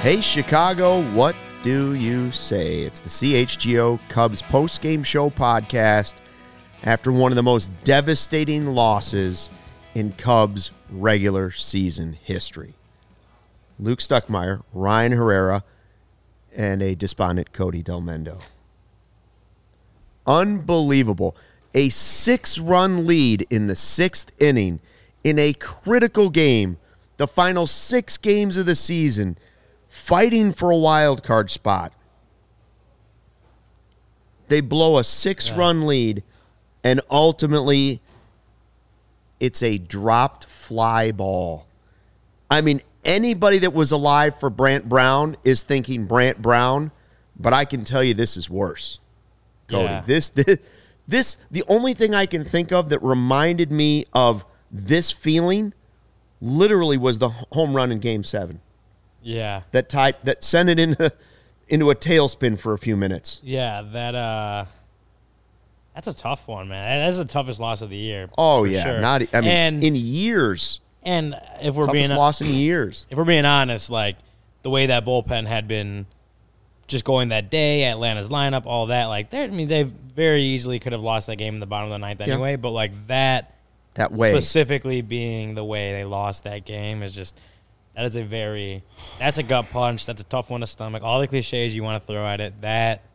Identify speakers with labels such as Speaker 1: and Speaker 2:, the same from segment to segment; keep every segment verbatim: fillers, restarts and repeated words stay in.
Speaker 1: Hey, Chicago, what do you say? It's the C H G O Cubs post-game show podcast after one of the most devastating losses in Cubs regular season history. Luke Stuckmeyer, Ryan Herrera, and a despondent Cody Delmendo. Unbelievable. A six-run lead in the sixth inning in a critical game, the final six games of the season, fighting for a wild card spot. They blow a six-run yeah. lead, and ultimately it's a dropped fly ball. I mean, anybody that was alive for Brant Brown is thinking Brant Brown, but I can tell you this is worse. Cody, yeah. this, this, this, the only thing I can think of that reminded me of this feeling literally was the home run in Game Seven.
Speaker 2: Yeah,
Speaker 1: that tied that sent it into into a tailspin for a few minutes.
Speaker 2: Yeah, that uh, that's a tough one, man. That's the toughest loss of the year.
Speaker 1: Oh yeah,
Speaker 2: sure.
Speaker 1: not I mean
Speaker 2: and,
Speaker 1: in years.
Speaker 2: And if we're
Speaker 1: toughest
Speaker 2: being
Speaker 1: loss in years,
Speaker 2: if we're being honest, like the way that bullpen had been just going that day, Atlanta's lineup, all that, like I mean, they very easily could have lost that game in the bottom of the ninth anyway. Yeah. But like that,
Speaker 1: that way
Speaker 2: specifically being the way they lost that game is just. That is a very, that's a gut punch. That's a tough one to stomach. All the cliches you want to throw at it, that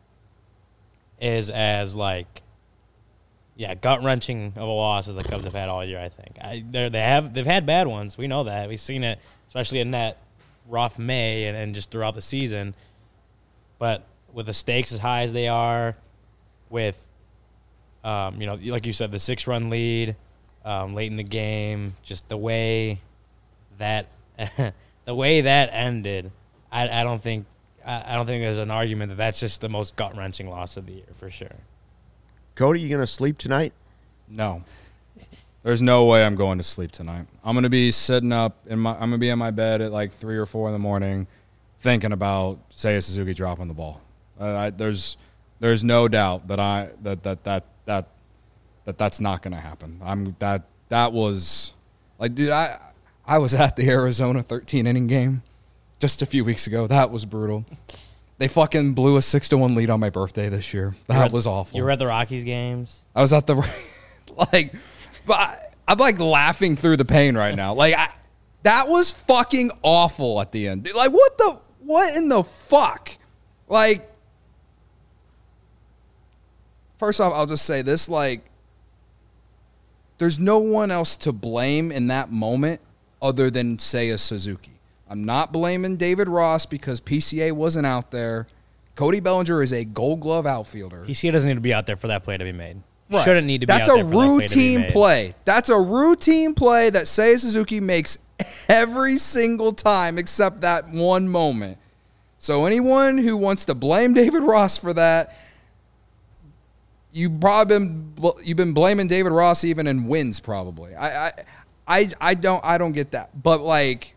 Speaker 2: is as, like, yeah, gut-wrenching of a loss as the Cubs have had all year, I think. I, they have, they've had bad ones. We know that. We've seen it, especially in that rough May and, and just throughout the season. But with the stakes as high as they are, with, um, you know, like you said, the six-run lead um, late in the game, just the way that – the way that ended, I, I don't think I, I don't think there's an argument that that's just the most gut wrenching loss of the year for sure.
Speaker 1: Cody, you gonna sleep tonight?
Speaker 3: No, there's no way I'm going to sleep tonight. I'm gonna be sitting up in my I'm gonna be in my bed at like three or four in the morning, thinking about Seiya Suzuki dropping the ball. Uh, I, there's there's no doubt that I that that that that that that's not gonna happen. I'm that that was like, dude, I. I was at the Arizona thirteen-inning game just a few weeks ago. That was brutal. They fucking blew a six to one lead on my birthday this year. That
Speaker 2: at,
Speaker 3: was awful.
Speaker 2: You were at the Rockies games?
Speaker 3: I was at the – like, but I, I'm, like, laughing through the pain right now. Like, I, that was fucking awful at the end. Dude, like, what the – what in the fuck? Like, first off, I'll just say this. Like, there's no one else to blame in that moment other than Seiya Suzuki. I'm not blaming David Ross because P C A wasn't out there. Cody Bellinger is a Gold Glove outfielder.
Speaker 2: P C A doesn't need to be out there for that play to be made.
Speaker 3: Right.
Speaker 2: Shouldn't need to be
Speaker 3: That's
Speaker 2: out there for that play to be made.
Speaker 3: That's a routine play. That's a routine play that Seiya Suzuki makes every single time except that one moment. So anyone who wants to blame David Ross for that, you've probably been you've been blaming David Ross even in wins probably. I. I I, I don't I don't get that. But like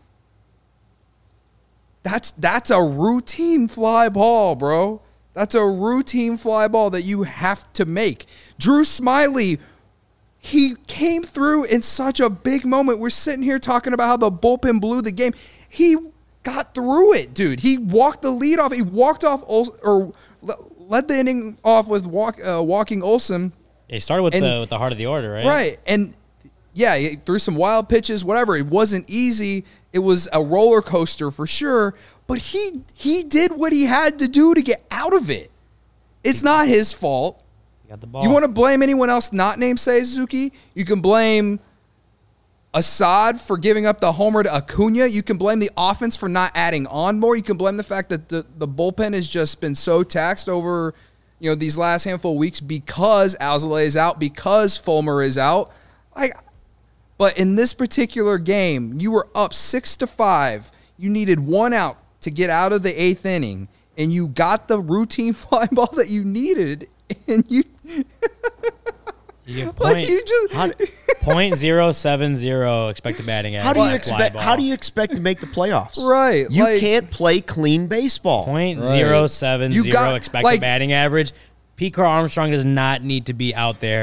Speaker 3: that's that's a routine fly ball, bro. That's a routine fly ball that you have to make. Drew Smyly, he came through in such a big moment. We're sitting here talking about how the bullpen blew the game. He got through it, dude. He walked the lead off. He walked off or led the inning off with walk, uh, walking Olsen.
Speaker 2: He started with and, the with the heart of the order, right?
Speaker 3: Right. And yeah, he threw some wild pitches, whatever. It wasn't easy. It was a roller coaster for sure. But he he did what he had to do to get out of it. It's he, not his fault.
Speaker 2: He got the ball.
Speaker 3: You want to blame anyone else not named Seiya Suzuki? You can blame Assad for giving up the homer to Acuna. You can blame the offense for not adding on more. You can blame the fact that the, the bullpen has just been so taxed over, you know, these last handful of weeks because Alzolay is out, because Fulmer is out. Like. But in this particular game, you were up six to five. You needed one out to get out of the eighth inning, and you got the routine fly ball that you needed, and you
Speaker 2: you get point,
Speaker 3: like you just
Speaker 2: how, point zero seven zero expected batting average.
Speaker 1: How do you expect? How do you expect to make the playoffs?
Speaker 3: Right,
Speaker 1: you
Speaker 3: like,
Speaker 1: can't play clean baseball.
Speaker 2: Point zero seven zero expected
Speaker 3: like,
Speaker 2: batting average. Pete Crow Armstrong does not need to be out there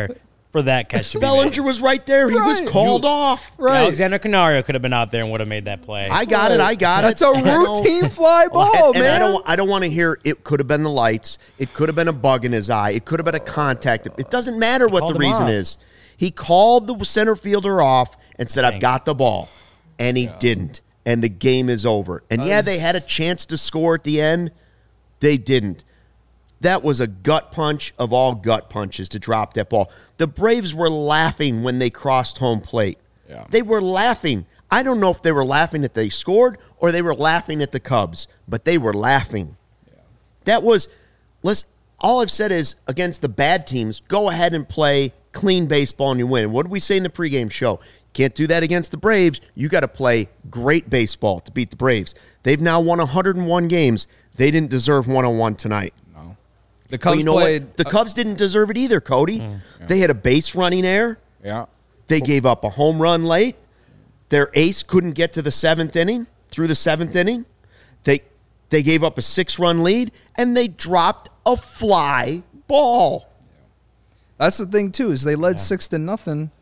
Speaker 2: for that catch to be
Speaker 1: Bellinger
Speaker 2: made.
Speaker 1: was right there. He was
Speaker 3: Right.
Speaker 1: called off.
Speaker 3: Right.
Speaker 2: Alexander Canario could have been out there and would have made that play.
Speaker 1: I got it. I got
Speaker 3: That's
Speaker 1: it.
Speaker 3: a
Speaker 1: And I don't-
Speaker 3: routine fly ball,
Speaker 1: and
Speaker 3: man.
Speaker 1: I don't. I don't want to hear it could have been the lights. It could have been a bug in his eye. It could have been a contact. It doesn't matter what
Speaker 2: called
Speaker 1: the
Speaker 2: him
Speaker 1: reason
Speaker 2: off.
Speaker 1: is. He called the center fielder off and said, "I've got the ball," and he didn't. And the game is over. And yeah, they had a chance to score at the end. They didn't. That was a gut punch of all gut punches to drop that ball. The Braves were laughing when they crossed home plate.
Speaker 3: Yeah.
Speaker 1: They were laughing. I don't know if they were laughing that they scored or they were laughing at the Cubs, but they were laughing. Yeah. That was, let's, all I've said is against the bad teams, go ahead and play clean baseball and you win. What did we say in the pregame show? Can't do that against the Braves. You got to play great baseball to beat the Braves. They've now won one hundred one games. They didn't deserve one oh one tonight.
Speaker 3: The Cubs
Speaker 1: But you know
Speaker 3: played.
Speaker 1: what? The Cubs didn't deserve it either, Cody.
Speaker 2: Mm.
Speaker 1: They had a base running error.
Speaker 3: Yeah.
Speaker 1: They gave up a home run late. Their ace couldn't get to the seventh inning, through the seventh inning. They they gave up a six-run lead, and they dropped a fly ball.
Speaker 3: That's the thing too, is they led six to nothing.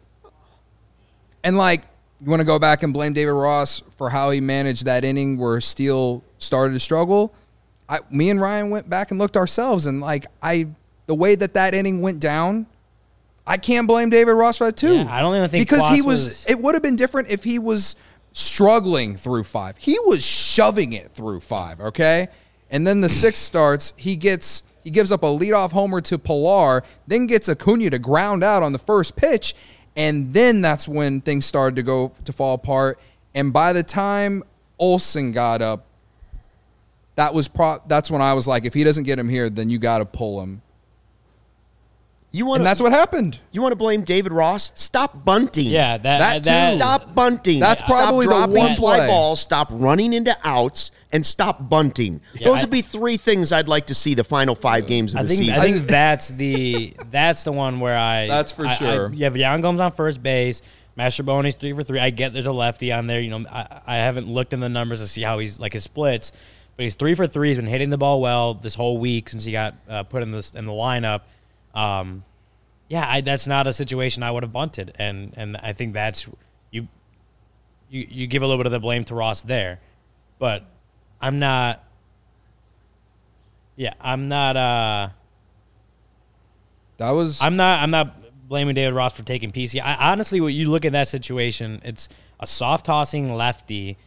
Speaker 3: And like, you want to go back and blame David Ross for how he managed that inning where Steele started to struggle. I, me and Ryan went back and looked ourselves, and like I, the way that that inning went down, I can't blame David Ross for that too.
Speaker 2: Yeah, I don't even think
Speaker 3: because he
Speaker 2: Kloss
Speaker 3: was,
Speaker 2: was-
Speaker 3: It would have been different if he was struggling through five. He was shoving it through five. Okay, and then the sixth starts. He gets he gives up a leadoff homer to Pilar, then gets Acuna to ground out on the first pitch, and then that's when things started to go to fall apart. And by the time Olsen got up, that was pro- that's when I was like, if he doesn't get him here, then you got to pull him.
Speaker 1: You want
Speaker 3: And that's what happened.
Speaker 1: You want to blame David Ross? Stop bunting.
Speaker 2: Yeah, that
Speaker 3: That
Speaker 2: that,
Speaker 3: too.
Speaker 1: Stop bunting.
Speaker 3: That's
Speaker 1: Stop
Speaker 3: probably the
Speaker 1: dropping
Speaker 3: one
Speaker 1: fly
Speaker 3: play.
Speaker 1: balls. Stop running into outs and stop bunting.
Speaker 2: Yeah,
Speaker 1: Those
Speaker 2: I-
Speaker 1: would be three things I'd like to see the final five games of
Speaker 2: I
Speaker 1: the
Speaker 2: think
Speaker 1: season.
Speaker 2: I think that's the that's the one where I
Speaker 3: That's for
Speaker 2: I- I-
Speaker 3: sure.
Speaker 2: you have Yan Gomes on first base. Mastrobuoni's three for three. I get there's a lefty on there. You know, I, I haven't looked in the numbers to see how he's like his splits, but he's three for three. He's been hitting the ball well this whole week since he got uh, put in this in the lineup. Um, yeah, I, that's not a situation I would have bunted, and and I think that's you. You you give a little bit of the blame to Ross there, but I'm not. Yeah, I'm not. Uh,
Speaker 3: That was
Speaker 2: I'm not. I'm not blaming David Ross for taking P C. I honestly, when you look at that situation, it's a soft tossing lefty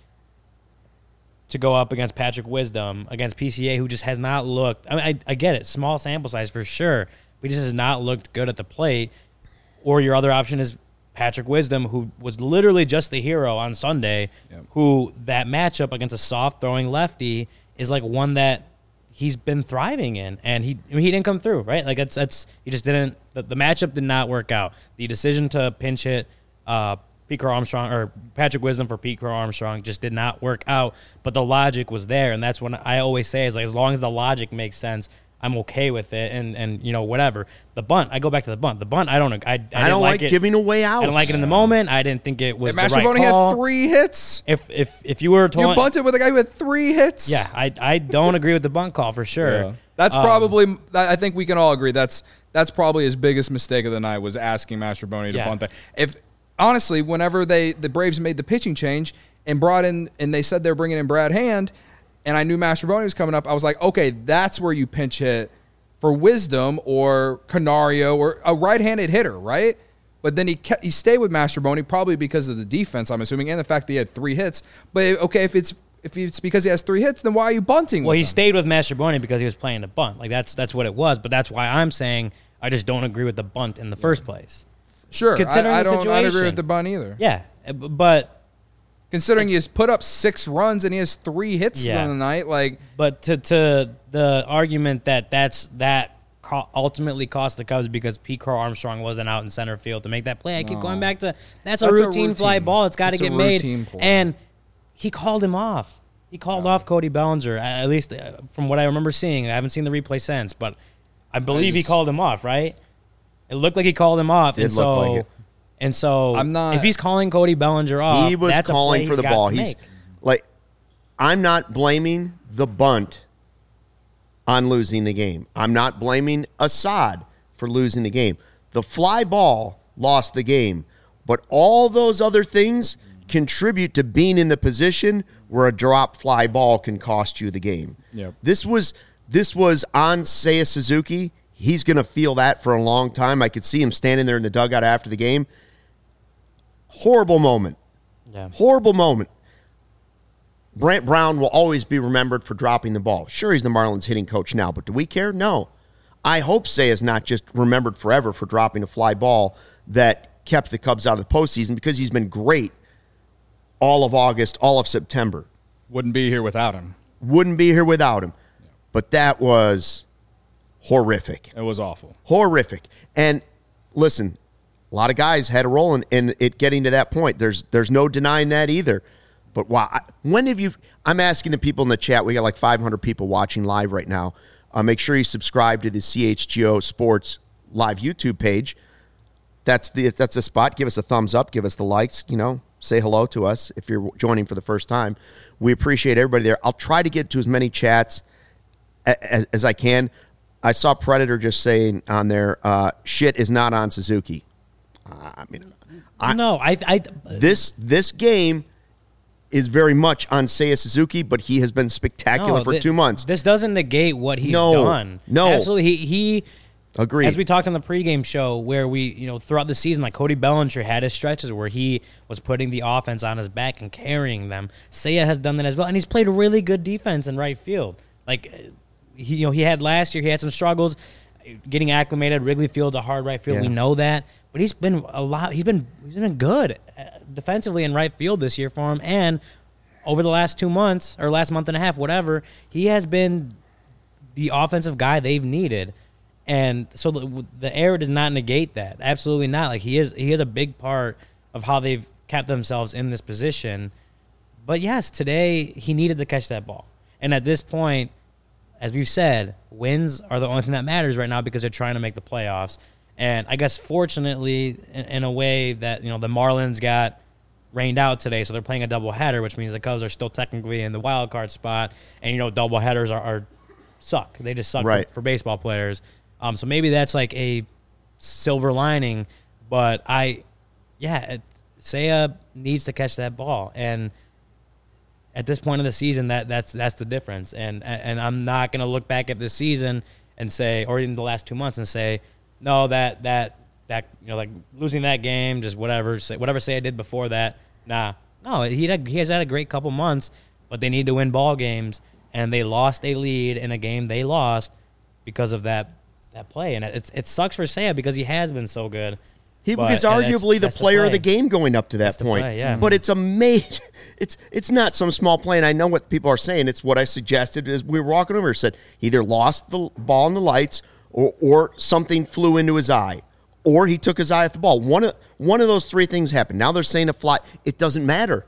Speaker 2: to go up against Patrick Wisdom against P C A, who just has not looked. I mean, I, I get it, small sample size for sure, but he just has not looked good at the plate. Or your other option is Patrick Wisdom, who was literally just the hero on Sunday.
Speaker 3: Yep.
Speaker 2: Who that matchup against a soft throwing lefty is like one that he's been thriving in, and he I mean, he didn't come through, right? Like that's that's he just didn't. The, the matchup did not work out. The decision to pinch hit uh, Pete Crow Armstrong or Patrick Wisdom for Pete Crow Armstrong just did not work out. But the logic was there, and that's when I always say is like as long as the logic makes sense, I'm okay with it, and and you know whatever. The bunt, I go back to the bunt. The bunt, I don't, I, I,
Speaker 1: I
Speaker 2: didn't
Speaker 1: don't like
Speaker 2: like it.
Speaker 1: giving away outs.
Speaker 2: I didn't like it in the moment. I didn't think it was
Speaker 3: If
Speaker 2: the right
Speaker 3: Mastrobuoni
Speaker 2: call.
Speaker 3: had three hits.
Speaker 2: If if if you were told,
Speaker 3: You bunted with a guy who had three hits.
Speaker 2: yeah, I I don't agree with the bunt call for sure.
Speaker 3: Yeah. That's
Speaker 2: Um,
Speaker 3: probably. I think we can all agree that's that's probably his biggest mistake of the night was asking Mastrobuoni to
Speaker 2: Yeah.
Speaker 3: bunt that. If honestly, whenever they the Braves made the pitching change and brought in and they said they're bringing in Brad Hand, and I knew Mastrobuoni was coming up, I was like, okay, that's where you pinch hit for Wisdom or Canario or a right-handed hitter, right? But then he kept, he stayed with Mastrobuoni probably because of the defense, I'm assuming, and the fact that he had three hits. But okay, if it's if it's because he has three hits, then why are you bunting?
Speaker 2: Well,
Speaker 3: with
Speaker 2: he
Speaker 3: him?
Speaker 2: stayed with Mastrobuoni because he was playing the bunt. Like that's that's what it was. But that's why I'm saying I just don't agree with the bunt in the first place.
Speaker 3: Sure,
Speaker 2: considering
Speaker 3: I, I
Speaker 2: the
Speaker 3: don't. I don't agree
Speaker 2: situation.
Speaker 3: with the bunt either.
Speaker 2: Yeah, uh, b- but
Speaker 3: Considering he has put up six runs and he has three hits
Speaker 2: Yeah.
Speaker 3: on the night, like
Speaker 2: but to to the argument that that's that co- ultimately cost the Cubs because Pete Crow Armstrong wasn't out in center field to make that play. I keep
Speaker 3: No.
Speaker 2: going back to that's, a,
Speaker 3: That's a
Speaker 2: routine fly
Speaker 3: routine.
Speaker 2: ball. It's got to
Speaker 3: It's a
Speaker 2: get made.
Speaker 3: routine play.
Speaker 2: And he called him off. He called off Cody Bellinger. At least uh, from what I remember seeing. I haven't seen the replay since, but I believe he
Speaker 3: just-
Speaker 2: called him off. Right? It looked like he called him off.
Speaker 1: Did
Speaker 2: and
Speaker 1: look
Speaker 2: so,
Speaker 1: like it.
Speaker 2: And so,
Speaker 3: I'm not-
Speaker 2: if he's calling Cody Bellinger off,
Speaker 1: He was
Speaker 2: that's a
Speaker 1: calling
Speaker 2: play
Speaker 1: for the
Speaker 2: he's got
Speaker 1: ball.
Speaker 2: to
Speaker 1: He's
Speaker 2: make.
Speaker 1: like, I'm not blaming the bunt on losing the game. I'm not blaming Assad for losing the game. The fly ball lost the game. But all those other things contribute to being in the position where a drop fly ball can cost you the game.
Speaker 3: Yep.
Speaker 1: This was this was on Seiya Suzuki. He's going to feel that for a long time. I could see him standing there in the dugout after the game. Horrible moment.
Speaker 2: Yeah.
Speaker 1: Horrible moment. Brant Brown will always be remembered for dropping the ball. Sure, he's the Marlins hitting coach now, but do we care? No. I hope Seiya's not just remembered forever for dropping a fly ball that kept the Cubs out of the postseason, because he's been great all of August, all of September.
Speaker 3: Wouldn't be here without him.
Speaker 1: Wouldn't be here without him. Yeah. But that was horrific.
Speaker 3: It was awful.
Speaker 1: Horrific. And listen, a lot of guys had a role in, in it getting to that point. There's there's no denying that either. But wow, when have you – I'm asking the people in the chat. We got like five hundred people watching live right now. Uh, make sure you subscribe to the C H G O Sports live YouTube page. That's the that's the spot. Give us a thumbs up. Give us the likes. You know, say hello to us if you're joining for the first time. We appreciate everybody there. I'll try to get to as many chats as, as I can. I saw Predator just saying on there, uh, shit is not on Suzuki. Uh, I mean, I,
Speaker 2: no, I, I
Speaker 1: this this game is very much on Seiya Suzuki, but he has been spectacular
Speaker 2: no,
Speaker 1: for
Speaker 2: th-
Speaker 1: two months.
Speaker 2: This doesn't negate what he's
Speaker 1: no,
Speaker 2: done.
Speaker 1: No,
Speaker 2: absolutely. He he.
Speaker 1: Agreed.
Speaker 2: As we talked on the pregame show, where we, you know, throughout the season, like Cody Bellinger had his stretches where he was putting the offense on his back and carrying them. Seiya has done that as well, and he's played really good defense in right field. Like, he, you know, he had last year, he had some struggles getting acclimated. Wrigley Field's a hard right field.
Speaker 1: Yeah.
Speaker 2: We know that, but he's been a lot. He's been he's been good defensively in right field this year for him, and over the last two months or last month and a half, whatever, he has been the offensive guy they've needed. And so the, the error does not negate that. Absolutely not. Like, he is he is a big part of how they've kept themselves in this position. But yes, today he needed to catch that ball. And at this point, as we've said, wins are the only thing that matters right now because they're trying to make the playoffs. And I guess fortunately, in, in a way that, you know, the Marlins got rained out today, so they're playing a doubleheader, which means the Cubs are still technically in the wild card spot. And, you know, doubleheaders are, are suck. They just suck
Speaker 1: right.
Speaker 2: for, for baseball players. Um, so maybe that's like a silver lining, but I, yeah, it, Seiya needs to catch that ball, and at this point of the season, that that's that's the difference. And and I'm not gonna look back at this season and say, or in the last two months, and say, no, that that that you know, like losing that game, just whatever, say, whatever Seiya did before that. Nah, no, he had, he has had a great couple months, but they need to win ball games, and they lost a lead in a game they lost because of that. That play, and it's it sucks for Seiya because he has been so good.
Speaker 1: He was arguably
Speaker 2: that's,
Speaker 1: the player
Speaker 2: the
Speaker 1: of the game going up to that
Speaker 2: that's
Speaker 1: point.
Speaker 2: Play, yeah.
Speaker 1: But it's a made, it's it's not some small play, and I know what people are saying. It's what I suggested as we were walking over. Said he either lost the ball in the lights, or or something flew into his eye, or he took his eye off the ball. One of one of those three things happened. Now they're saying a fly. It doesn't matter.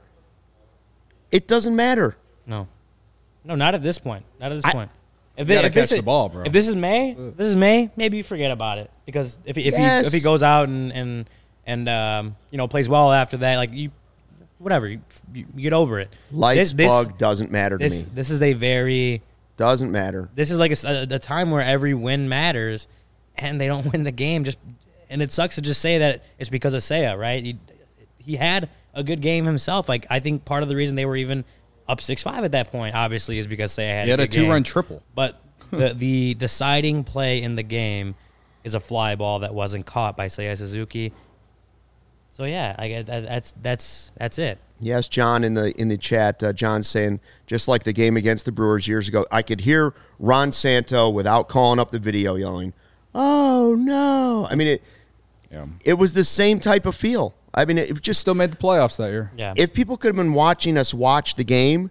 Speaker 1: It doesn't matter.
Speaker 2: No, no, not at this point. Not at this
Speaker 1: I,
Speaker 2: point. If,
Speaker 3: you
Speaker 2: it,
Speaker 3: gotta
Speaker 2: if
Speaker 3: catch
Speaker 2: this
Speaker 3: the
Speaker 2: is,
Speaker 3: ball, bro.
Speaker 2: If this is May, if this is May, maybe you forget about it because if if
Speaker 1: yes.
Speaker 2: he if he goes out and and and um, you know, plays well after that, like you, whatever, you, you get over it.
Speaker 1: Lights
Speaker 2: this,
Speaker 1: bug
Speaker 2: this,
Speaker 1: doesn't matter to
Speaker 2: this,
Speaker 1: me.
Speaker 2: This is a very
Speaker 1: doesn't matter.
Speaker 2: This is like a, a, a time where every win matters, and they don't win the game. Just and it sucks to just say that it's because of Seiya, right? He, he had a good game himself. Like, I think part of the reason they were even up six five at that point, obviously, is because Seiya had,
Speaker 3: he had
Speaker 2: a,
Speaker 3: a
Speaker 2: two
Speaker 3: run triple.
Speaker 2: But the the deciding play in the game is a fly ball that wasn't caught by Seiya Suzuki. So yeah, I get that, that's that's that's it.
Speaker 1: Yes, John in the in the chat. Uh, John saying just like the game against the Brewers years ago, I could hear Ron Santo without calling up the video yelling, "Oh no!" I mean it.
Speaker 3: Yeah.
Speaker 1: It was the same type of feel. I mean, it just
Speaker 3: still made the playoffs that year.
Speaker 2: Yeah.
Speaker 1: If people could have been watching us watch the game,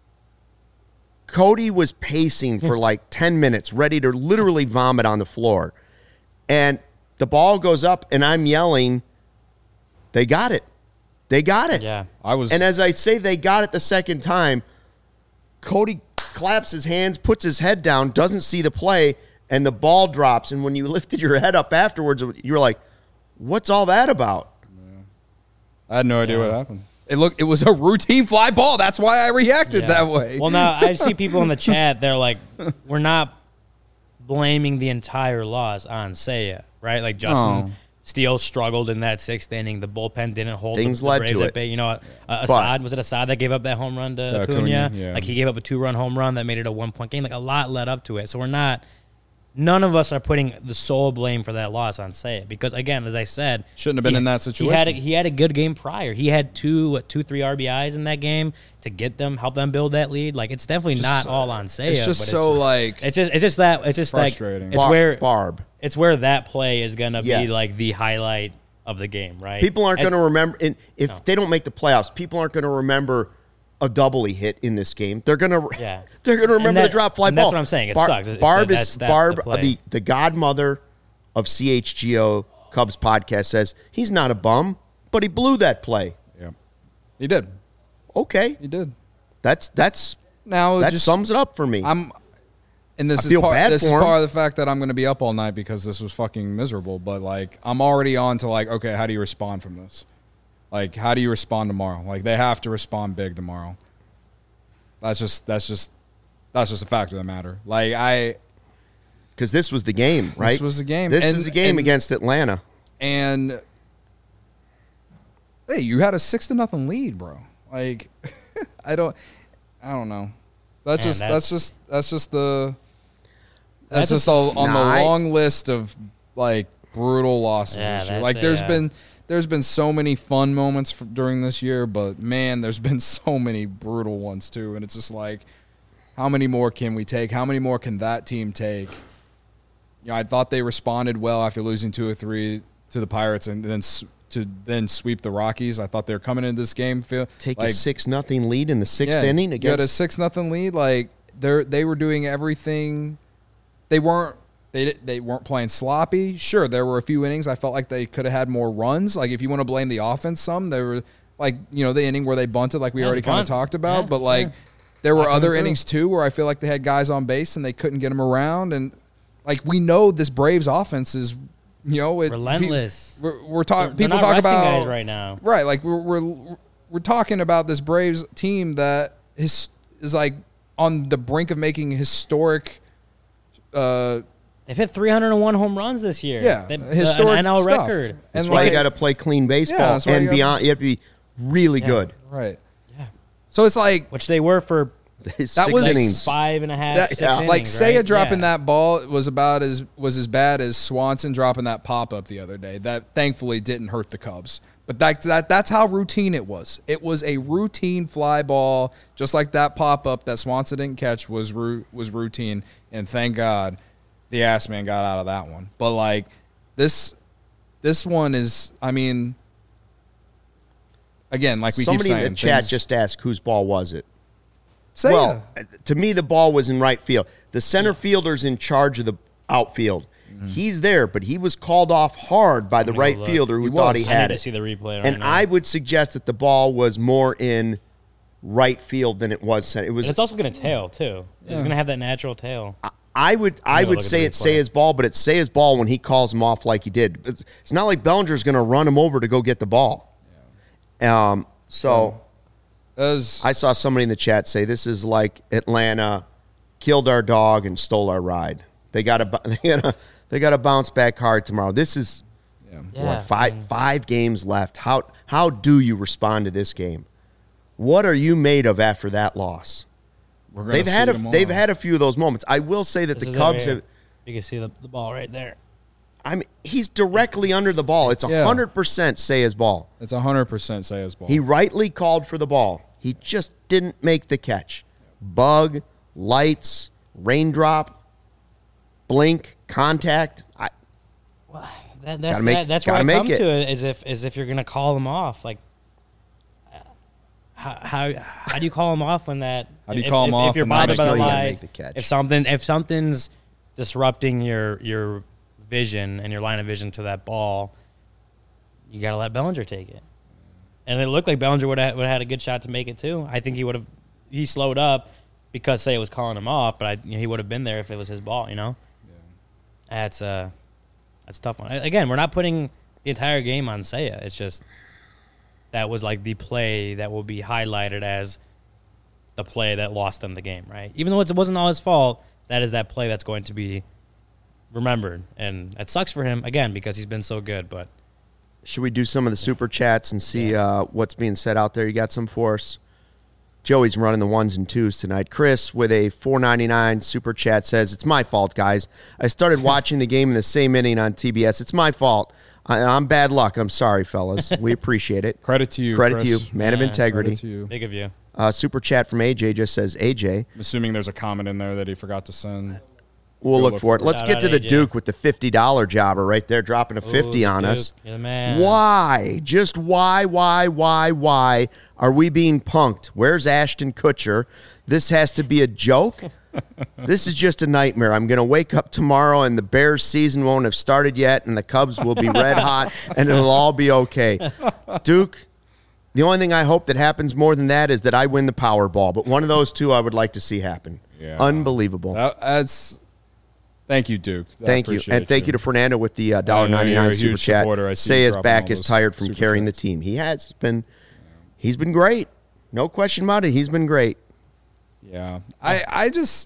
Speaker 1: Cody was pacing for like ten minutes, ready to literally vomit on the floor. And the ball goes up, and I'm yelling, they got it. They got it.
Speaker 2: Yeah.
Speaker 3: I was.
Speaker 1: And as I say they got it the second time, Cody claps his hands, puts his head down, doesn't see the play, and the ball drops. And when you lifted your head up afterwards, you were like, what's all that about?
Speaker 3: I had no idea
Speaker 2: Yeah.
Speaker 3: what happened. It looked. It was a routine fly ball. That's why I reacted
Speaker 2: Yeah.
Speaker 3: that way.
Speaker 2: Well, now I see people in the chat. They're like, "We're not blaming the entire loss on Seiya, right?" Like Justin,
Speaker 3: No.
Speaker 2: Steele struggled in that sixth inning. The bullpen didn't hold
Speaker 1: Things
Speaker 2: the, the
Speaker 1: led
Speaker 2: Braves
Speaker 1: to
Speaker 2: at
Speaker 1: it.
Speaker 2: bay. You know, uh,
Speaker 1: But-
Speaker 2: Assad, was it Assad that gave up that home run to
Speaker 3: To
Speaker 2: Acuna?
Speaker 3: Acuna, yeah.
Speaker 2: Like, he gave up a two-run home run that made it a one-point game. Like, a lot led up to it. So we're not – none of us are putting the sole blame for that loss on Seiya. Because, again, as I said –
Speaker 3: Shouldn't have been
Speaker 2: he-
Speaker 3: in that
Speaker 2: He had, a,
Speaker 3: situation.
Speaker 2: he had a good game prior. He had two, what, two, three R B Is in that game to get them, help them build that lead. Like, it's definitely
Speaker 3: Just,
Speaker 2: not all on Seiya.
Speaker 3: It's just
Speaker 2: but
Speaker 3: so
Speaker 2: it's,
Speaker 3: like
Speaker 2: it's just it's just that it's just
Speaker 3: Frustrating.
Speaker 2: like it's
Speaker 1: Bar-
Speaker 2: where
Speaker 1: Barb.
Speaker 2: it's where that play is gonna
Speaker 1: Yes.
Speaker 2: be like the highlight of the game, right?
Speaker 1: People aren't
Speaker 2: And-
Speaker 1: going to remember. And if they don't make the playoffs, people aren't going to remember a double he hit in this game. They're going to.
Speaker 2: Yeah.
Speaker 1: They're going to
Speaker 2: And
Speaker 1: remember
Speaker 2: that-
Speaker 1: the drop fly
Speaker 2: and
Speaker 1: ball.
Speaker 2: that's what I'm saying. It
Speaker 1: Bar-
Speaker 2: sucks. It's
Speaker 1: Barb
Speaker 2: that-
Speaker 1: is
Speaker 2: that's that-
Speaker 1: Barb,
Speaker 2: the play.
Speaker 1: the the godmother of C H G O Cubs podcast says he's not a bum, but he blew that play.
Speaker 3: yeah. He did.
Speaker 1: Okay,
Speaker 3: He did.
Speaker 1: that's that's
Speaker 3: Now
Speaker 1: that
Speaker 3: just
Speaker 1: sums it up for me.
Speaker 3: I'm and this
Speaker 1: I
Speaker 3: is
Speaker 1: feel
Speaker 3: part
Speaker 1: bad
Speaker 3: this is
Speaker 1: for him.
Speaker 3: part of the fact that I'm going to be up all night because this was fucking miserable, but like I'm already on to like okay, how do you respond from this? Like how do you respond tomorrow? Like they have to respond big tomorrow. That's just that's just that's just a fact of the matter. Like I
Speaker 1: Because this was the game, right?
Speaker 3: was the game.
Speaker 1: This
Speaker 3: And-
Speaker 1: is the game
Speaker 3: and-
Speaker 1: against Atlanta.
Speaker 3: and hey, you had a six to nothing lead, bro. Like I don't I don't know. That's
Speaker 2: Man,
Speaker 3: just that's,
Speaker 2: that's-
Speaker 3: just that's just the that's,
Speaker 2: That's a-
Speaker 3: just a, on
Speaker 1: Nah,
Speaker 3: the
Speaker 1: I-
Speaker 3: long list of like brutal losses
Speaker 2: Yeah,
Speaker 3: this year.
Speaker 2: that's
Speaker 3: Like
Speaker 2: a,
Speaker 3: there's
Speaker 2: uh,
Speaker 3: been there's been so many fun moments f during this year, but man, there's been so many brutal ones too, and it's just like how many more can we take? How many more can that team take? You know, I thought they responded well after losing two or three to the Pirates, and then s- to then sweep the Rockies. I thought they were coming into this game feel
Speaker 1: Take
Speaker 3: like
Speaker 1: a six nothing lead in the sixth
Speaker 3: yeah,
Speaker 1: inning
Speaker 3: you had a
Speaker 1: against.
Speaker 3: six nothing lead. Like they they were doing everything. They weren't they di- they weren't playing sloppy. Sure, there were a few innings I felt like they could have had more runs. Like if you want to blame the offense, some there were like you know the inning where they bunted, like we
Speaker 2: Yeah,
Speaker 3: already
Speaker 2: the
Speaker 3: kind of
Speaker 2: bunt.
Speaker 3: talked about.
Speaker 2: Yeah,
Speaker 3: but like
Speaker 2: sure.
Speaker 3: there were
Speaker 2: Not coming
Speaker 3: other
Speaker 2: through.
Speaker 3: innings too where I feel like they had guys on base and they couldn't get them around. And like we know this Braves offense is you know it, pe-
Speaker 2: Relentless.
Speaker 3: We're, we're
Speaker 2: They're-
Speaker 3: talking.
Speaker 2: they're
Speaker 3: People
Speaker 2: not
Speaker 3: talk
Speaker 2: resting
Speaker 3: about
Speaker 2: guys right now.
Speaker 3: Right, like we're we're we're talking about this Braves team that is is like on the brink of making historic. Uh,
Speaker 2: They've hit three hundred one home runs this year.
Speaker 3: Yeah,
Speaker 2: They,
Speaker 3: historic
Speaker 2: an N L
Speaker 3: stuff.
Speaker 2: record.
Speaker 1: That's
Speaker 3: and
Speaker 1: why
Speaker 3: like-
Speaker 1: you got to play clean baseball
Speaker 3: Yeah, that's why
Speaker 1: and
Speaker 3: you gotta-
Speaker 1: beyond. You have to be really good.
Speaker 3: right.
Speaker 2: Yeah.
Speaker 3: So it's like
Speaker 2: Which they were for
Speaker 1: Six
Speaker 3: That was-
Speaker 1: innings.
Speaker 2: five and a half,
Speaker 3: that,
Speaker 2: six
Speaker 1: yeah.
Speaker 2: innings,
Speaker 3: like Seiya
Speaker 2: right?
Speaker 3: dropping
Speaker 2: Yeah.
Speaker 3: that ball was about as was as bad as Swanson dropping that pop up the other day. That thankfully didn't hurt the Cubs. But that, that that's how routine it was. It was a routine fly ball, just like that pop up that Swanson didn't catch was ru- was routine. And thank God, the ass man got out of that one. But like this, this one is. I mean, again, like we
Speaker 1: Somebody
Speaker 3: keep
Speaker 1: in
Speaker 3: saying,
Speaker 1: the chat
Speaker 3: things-
Speaker 1: just asked whose ball was it.
Speaker 3: Seiya.
Speaker 1: Well, to me, the ball was in right field. The center fielder's in charge of the outfield. He's there, but he was called off hard by the
Speaker 2: gonna
Speaker 1: right
Speaker 2: look.
Speaker 1: fielder who
Speaker 3: He
Speaker 1: thought
Speaker 3: was.
Speaker 1: he
Speaker 2: I need
Speaker 1: had
Speaker 2: to
Speaker 1: it.
Speaker 2: see the replay right
Speaker 1: And
Speaker 2: now.
Speaker 1: I would suggest that the ball was more in right field than it was center. It was.
Speaker 2: And it's also going to tail too. It's going to have that natural tail.
Speaker 1: I would I
Speaker 2: gonna
Speaker 1: would
Speaker 2: look at
Speaker 1: say
Speaker 2: the
Speaker 1: it's
Speaker 2: replay.
Speaker 1: Seiya's ball, but it's Seiya's ball when he calls him off like he did. It's, it's not like Bellinger's going to run him over to go get the ball. Um. So.
Speaker 3: As-
Speaker 1: I saw somebody in the chat say this is like Atlanta killed our dog and stole our ride. They got to they got to they got to bounce back hard tomorrow. This is
Speaker 3: yeah.
Speaker 2: Yeah,
Speaker 1: what,
Speaker 2: I
Speaker 1: five
Speaker 2: mean-
Speaker 1: five games left. How how do you respond to this game? What are you made of after that loss?
Speaker 3: We're gonna
Speaker 1: They've
Speaker 3: see
Speaker 1: had a
Speaker 3: tomorrow.
Speaker 1: they've had a few of those moments. I will say that
Speaker 2: This
Speaker 1: the
Speaker 2: is
Speaker 1: Cubs
Speaker 2: over here.
Speaker 1: have.
Speaker 2: You can see the, the ball right there.
Speaker 1: I mean, he's directly under the ball. It's
Speaker 3: Yeah.
Speaker 1: hundred percent Seiya's ball.
Speaker 3: It's one hundred percent Seiya's ball.
Speaker 1: He rightly called for the ball. He just didn't make the catch. Bug, lights, raindrop, blink, contact. I,
Speaker 2: That, that's
Speaker 1: Gotta make-
Speaker 2: that, that's where
Speaker 1: gotta
Speaker 2: I
Speaker 1: make
Speaker 2: come
Speaker 1: it.
Speaker 2: to it. Is if is if you're going to call them off, like uh, how, how how do you call them off when that?
Speaker 3: How do you
Speaker 2: if,
Speaker 3: call 'em
Speaker 2: if,
Speaker 3: off
Speaker 2: if you're
Speaker 3: and not
Speaker 2: bothered
Speaker 1: just
Speaker 2: by the
Speaker 1: know you gotta
Speaker 2: lie?
Speaker 1: make the catch.
Speaker 2: If something if something's disrupting your your vision and your line of vision to that ball, you got to let Bellinger take it. And it looked like Bellinger would have would have had a good shot to make it too. I think he would have. He slowed up because Seiya was calling him off, but I, you know, he would have been there if it was his ball. You know, that's uh that's a tough one. Again, we're not putting the entire game on Seiya. It's just that was like the play that will be highlighted as the play that lost them the game, right? Even though it wasn't all his fault, that is that play that's going to be remembered, and it sucks for him again because he's been so good. But
Speaker 1: should we do some of the super chats and see uh, what's being said out there? You got some for us? Joey's running the ones and twos tonight. Chris with a four ninety-nine super chat says, it's my fault, guys. I started watching the game in the same inning on T B S. It's my fault. I, I'm bad luck. I'm sorry, fellas. We appreciate it.
Speaker 3: Credit to you,
Speaker 1: Credit
Speaker 3: Chris.
Speaker 1: to you. Man
Speaker 2: Yeah,
Speaker 1: of integrity.
Speaker 3: Credit to you.
Speaker 2: big of you.
Speaker 1: Uh, super chat from A J just says, A J,
Speaker 3: I'm assuming there's a comment in there that he forgot to send.
Speaker 1: we'll
Speaker 3: Go
Speaker 1: look
Speaker 3: look
Speaker 1: for it.
Speaker 3: for it.
Speaker 1: Let's
Speaker 2: Shout
Speaker 1: get
Speaker 2: out
Speaker 1: to the
Speaker 2: A J.
Speaker 1: Duke with the fifty dollar jobber right there, dropping a fifty
Speaker 2: Ooh,
Speaker 1: on
Speaker 2: Duke,
Speaker 1: us.
Speaker 2: you're the man.
Speaker 1: Why? Just why, why, why, why are we being punked? Where's Ashton Kutcher? This has to be a joke? This is just a nightmare. I'm going to wake up tomorrow and the Bears season won't have started yet and the Cubs will be red hot and it'll all be okay. Duke, the only thing I hope that happens more than that is that I win the Powerball. But one of those two I would like to see happen.
Speaker 3: Yeah.
Speaker 1: Unbelievable.
Speaker 3: That, that's. Thank you, Duke. I
Speaker 1: Thank you.
Speaker 3: appreciate
Speaker 1: And thank you to Fernando with the uh,
Speaker 3: I
Speaker 1: one
Speaker 3: know
Speaker 1: dollar
Speaker 3: you're
Speaker 1: ninety-nine
Speaker 3: a
Speaker 1: super
Speaker 3: huge
Speaker 1: chat.
Speaker 3: supporter. I see
Speaker 1: Say
Speaker 3: you
Speaker 1: his
Speaker 3: dropping
Speaker 1: back
Speaker 3: all
Speaker 1: is
Speaker 3: those
Speaker 1: tired from
Speaker 3: super
Speaker 1: carrying
Speaker 3: chats.
Speaker 1: the team. He has He's been he's been great. No question about it. He's been great.
Speaker 3: Yeah. I, I just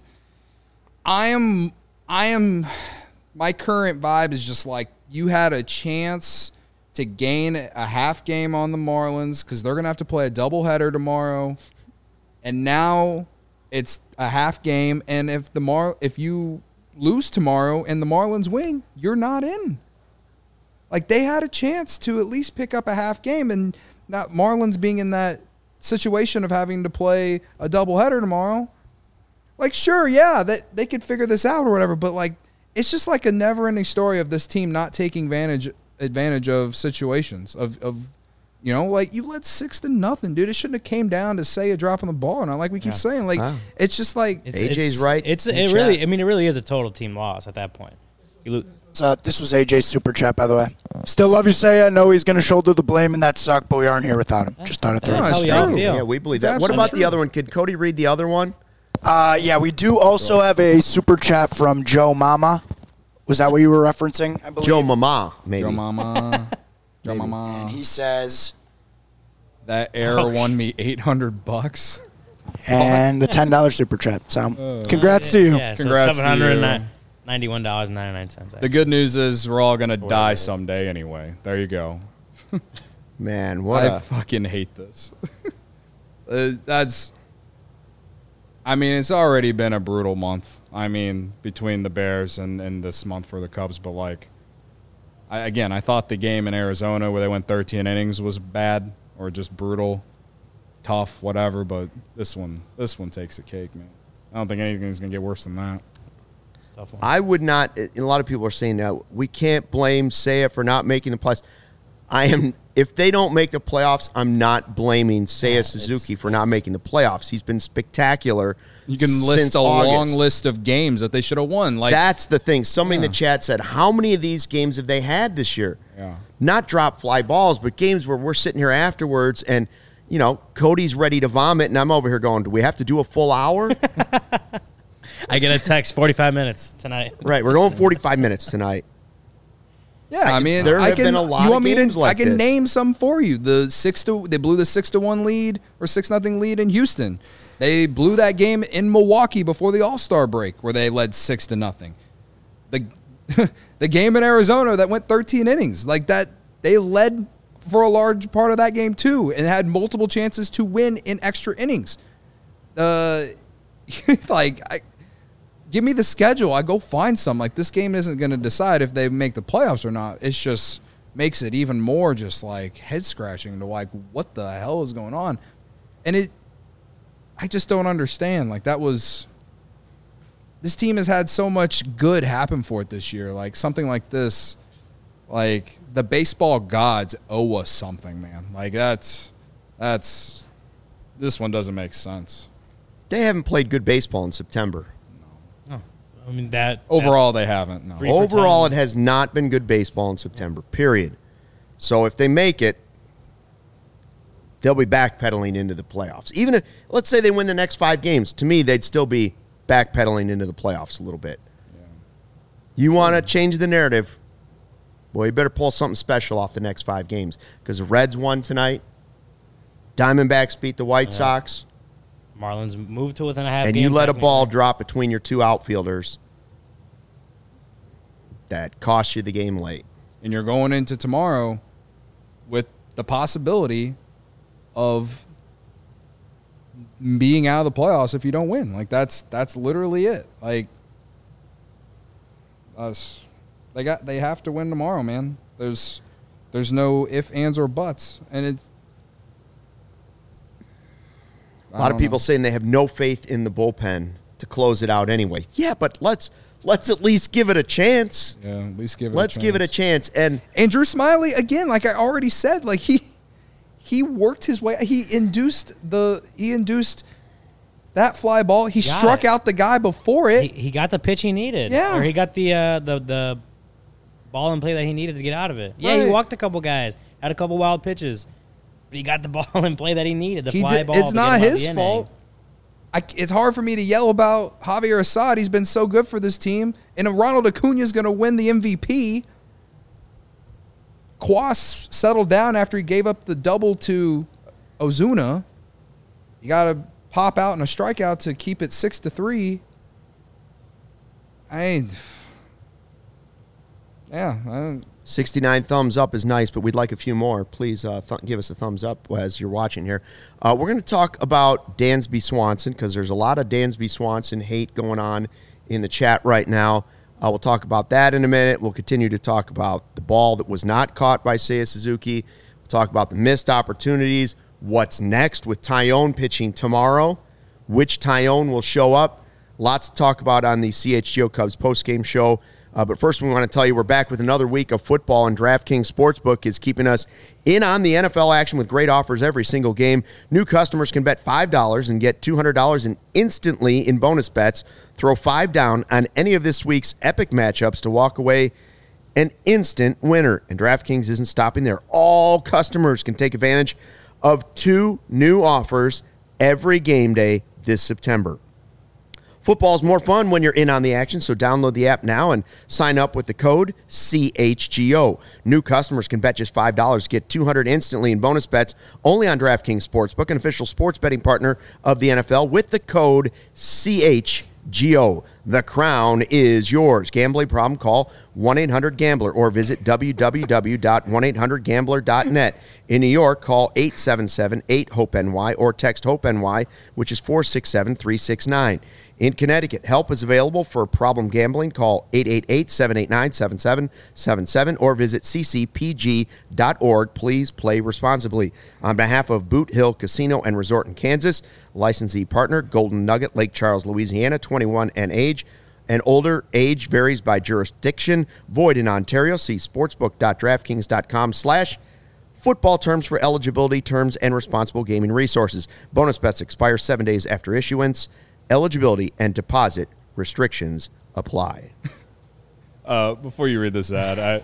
Speaker 3: I am I am my current vibe is just like you had a chance to gain a half game on the Marlins because they're gonna have to play a doubleheader tomorrow. And now it's a half game, and if the Mar if you lose tomorrow and the Marlins win, you're not in. Like they had a chance to at least pick up a half game, and not Marlins being in that situation of having to play a doubleheader tomorrow. Like, sure, yeah, that they could figure this out or whatever, but like it's just like a never-ending story of this team not taking advantage advantage of situations of of you know, like you led six to nothing, dude. It shouldn't have came down to say a drop on the ball, and like we keep
Speaker 2: Yeah.
Speaker 3: saying, like
Speaker 1: Wow.
Speaker 3: it's just like
Speaker 2: It's,
Speaker 1: A J's
Speaker 2: it's,
Speaker 1: right
Speaker 2: It's
Speaker 1: in
Speaker 2: it
Speaker 1: the
Speaker 2: really.
Speaker 1: chat.
Speaker 2: I mean, it really is a total team loss at that point. You lo-
Speaker 4: So this was A J's super chat, by the way. Still love you, Say. I know he's going to shoulder the blame, and that sucked, but we aren't here without him. Just thought I'd throw
Speaker 3: No,
Speaker 4: it.
Speaker 2: That's
Speaker 3: it's
Speaker 2: how we all
Speaker 3: true.
Speaker 2: feel.
Speaker 1: Yeah, we believe
Speaker 3: It's
Speaker 1: that. What
Speaker 3: absolutely
Speaker 1: about
Speaker 3: true.
Speaker 1: the other one? Could Cody read the other one?
Speaker 4: Uh, yeah, we do also have a super chat from Joe Mama. Was that what you were referencing? I believe.
Speaker 1: Joe Mama, maybe.
Speaker 3: Joe Mama, Joe
Speaker 1: Maybe.
Speaker 3: Mama.
Speaker 4: He says,
Speaker 3: That error won me eight hundred bucks.
Speaker 4: and the ten dollar super chat. So, congrats to you.
Speaker 2: Yeah, so
Speaker 3: Congrats to
Speaker 2: seven hundred
Speaker 3: you.
Speaker 2: ninety-one dollars and ninety-nine cents.
Speaker 3: The good news is we're all gonna
Speaker 2: Whatever.
Speaker 3: die someday anyway. There you go.
Speaker 1: Man, what
Speaker 3: I
Speaker 1: a
Speaker 3: fucking hate this. uh, that's. I mean, it's already been a brutal month. I mean, between the Bears and, and this month for the Cubs, but like, I, again, I thought the game in Arizona where they went thirteen innings was bad or just brutal, tough, whatever. But this one, this one takes the cake, man. I don't think anything's gonna get worse than that.
Speaker 2: It's a tough one.
Speaker 1: I would not. A lot of people are saying that we can't blame Seiya for not making the playoffs. I am. If they don't make the playoffs, I'm not blaming Seiya Suzuki for not making the playoffs. He's been spectacular.
Speaker 3: You can
Speaker 1: since
Speaker 3: list a
Speaker 1: August.
Speaker 3: long list of games that they should have won. Like
Speaker 1: That's the thing. Somebody in
Speaker 3: Yeah.
Speaker 1: the chat said, "How many of these games have they had this year?"
Speaker 3: Yeah.
Speaker 1: Not drop fly balls, but games where we're sitting here afterwards and, you know, Cody's ready to vomit, and I'm over here going, "Do we have to do a full hour?"
Speaker 2: I get a text forty-five minutes tonight.
Speaker 1: Right. We're going forty-five minutes tonight.
Speaker 3: Yeah, I,
Speaker 1: I-
Speaker 3: mean,
Speaker 1: there
Speaker 3: I
Speaker 1: have
Speaker 3: can.
Speaker 1: been a lot
Speaker 3: you
Speaker 1: of
Speaker 3: want me
Speaker 1: games
Speaker 3: to?
Speaker 1: like
Speaker 3: I can
Speaker 1: this.
Speaker 3: name some for you. The six to they blew the six to one lead or six nothing lead in Houston. They blew that game in Milwaukee before the All Star break, where they led six to nothing. The the game in Arizona that went thirteen innings, like that, they led for a large part of that game too, and had multiple chances to win in extra innings. Uh, like I. Give me the schedule. I go find some. Like, this game isn't going to decide if they make the playoffs or not. It's just makes it even more just like head scratching to like, what the hell is going on? And it, I just don't understand. Like, that was, this team has had so much good happen for it this year. Like, something like this, like, the baseball gods owe us something, man. Like, that's, that's, this one doesn't make sense.
Speaker 1: They haven't played good baseball in September.
Speaker 2: I mean that
Speaker 3: Overall, they haven't. No.
Speaker 2: Three- for
Speaker 1: Overall,
Speaker 2: ten.
Speaker 1: it has not been good baseball in September, period. So if they make it, they'll be backpedaling into the playoffs. Even if, let's say they win the next five games, to me, they'd still be backpedaling into the playoffs a little bit. You want to change the narrative, boy, you better pull something special off the next five games because the Reds won tonight. Diamondbacks beat the White Sox.
Speaker 2: Marlins moved to within a half
Speaker 1: And
Speaker 2: game.
Speaker 1: you let a ball
Speaker 2: technically.
Speaker 1: drop between your two outfielders. that cost you the game late.
Speaker 3: And you're going into tomorrow with the possibility of being out of the playoffs if you don't win. Like, that's that's literally it. Like, us, they got they have to win tomorrow, man. There's there's no ifs, ands, or buts, and it's
Speaker 1: a lot of people know. saying they have no faith in the bullpen to close it out anyway. Yeah, but let's let's at least give it a chance.
Speaker 3: Yeah, at least give it.
Speaker 1: Let's
Speaker 3: a chance.
Speaker 1: give it a chance. And
Speaker 3: and Drew Smiley again, like I already said, like he he worked his way. He induced the he induced that fly ball. He
Speaker 2: Got
Speaker 3: struck
Speaker 2: it.
Speaker 3: out the guy before it.
Speaker 2: He, he got the pitch he needed.
Speaker 3: Yeah.
Speaker 2: Or he got the uh, the the ball in play that he needed to get out of it. Yeah,
Speaker 3: Right.
Speaker 2: he walked a couple guys, had a couple wild pitches, but he got the ball in play that he needed. The
Speaker 3: He
Speaker 2: fly
Speaker 3: did,
Speaker 2: ball.
Speaker 3: it's
Speaker 2: to
Speaker 3: not
Speaker 2: get him out
Speaker 3: his
Speaker 2: the inning.
Speaker 3: fault. I, it's hard for me to yell about Javier Assad. He's been so good for this team. And if Ronald Acuna is going to win the M V P, Kwas settled down after he gave up the double to Ozuna. You got to pop out and a strikeout to keep it six to three. I ain't. Yeah. I don't,
Speaker 1: sixty-nine thumbs up is nice, but we'd like a few more. Please uh, th- give us a thumbs up as you're watching here. Uh, we're going to talk about Dansby Swanson because there's a lot of Dansby Swanson hate going on in the chat right now. Uh, we'll talk about that in a minute. We'll continue to talk about the ball that was not caught by Seiya Suzuki. We'll talk about the missed opportunities. What's next with Tyone pitching tomorrow? Which Tyone will show up? Lots to talk about on the C H G O Cubs postgame show. Uh, but first, we want to tell you we're back with another week of football, and DraftKings Sportsbook is keeping us in on the N F L action with great offers every single game. New customers can bet five dollars and get two hundred dollars in instantly in bonus bets. Throw five down on any of this week's epic matchups to walk away an instant winner. And DraftKings isn't stopping there. All customers can take advantage of two new offers every game day this September. Football's more fun when you're in on the action, so download the app now and sign up with the code C H G O. New customers can bet just five dollars, get two hundred dollars instantly in bonus bets only on DraftKings Sportsbook, an official sports betting partner of the N F L, with the code C H G O. The crown is yours. Gambling problem? Call one eight hundred gambler or visit w w w dot one eight hundred gambler dot net. In New York, call eight seven seven eight hope N Y or text HOPE-NY, which is four six seven three six nine. In Connecticut, help is available for problem gambling. Call eight eight eight seven eight nine seven seven seven seven or visit c c p g dot org. Please play responsibly. On behalf of Boot Hill Casino and Resort in Kansas, licensee partner Golden Nugget, Lake Charles, Louisiana, twenty-one and age. And older age varies by jurisdiction. Void in Ontario. See sportsbook dot draftkings dot com slash football terms for eligibility, terms, and responsible gaming resources. Bonus bets expire seven days after issuance. Eligibility and deposit restrictions apply.
Speaker 5: Uh, before you read this ad,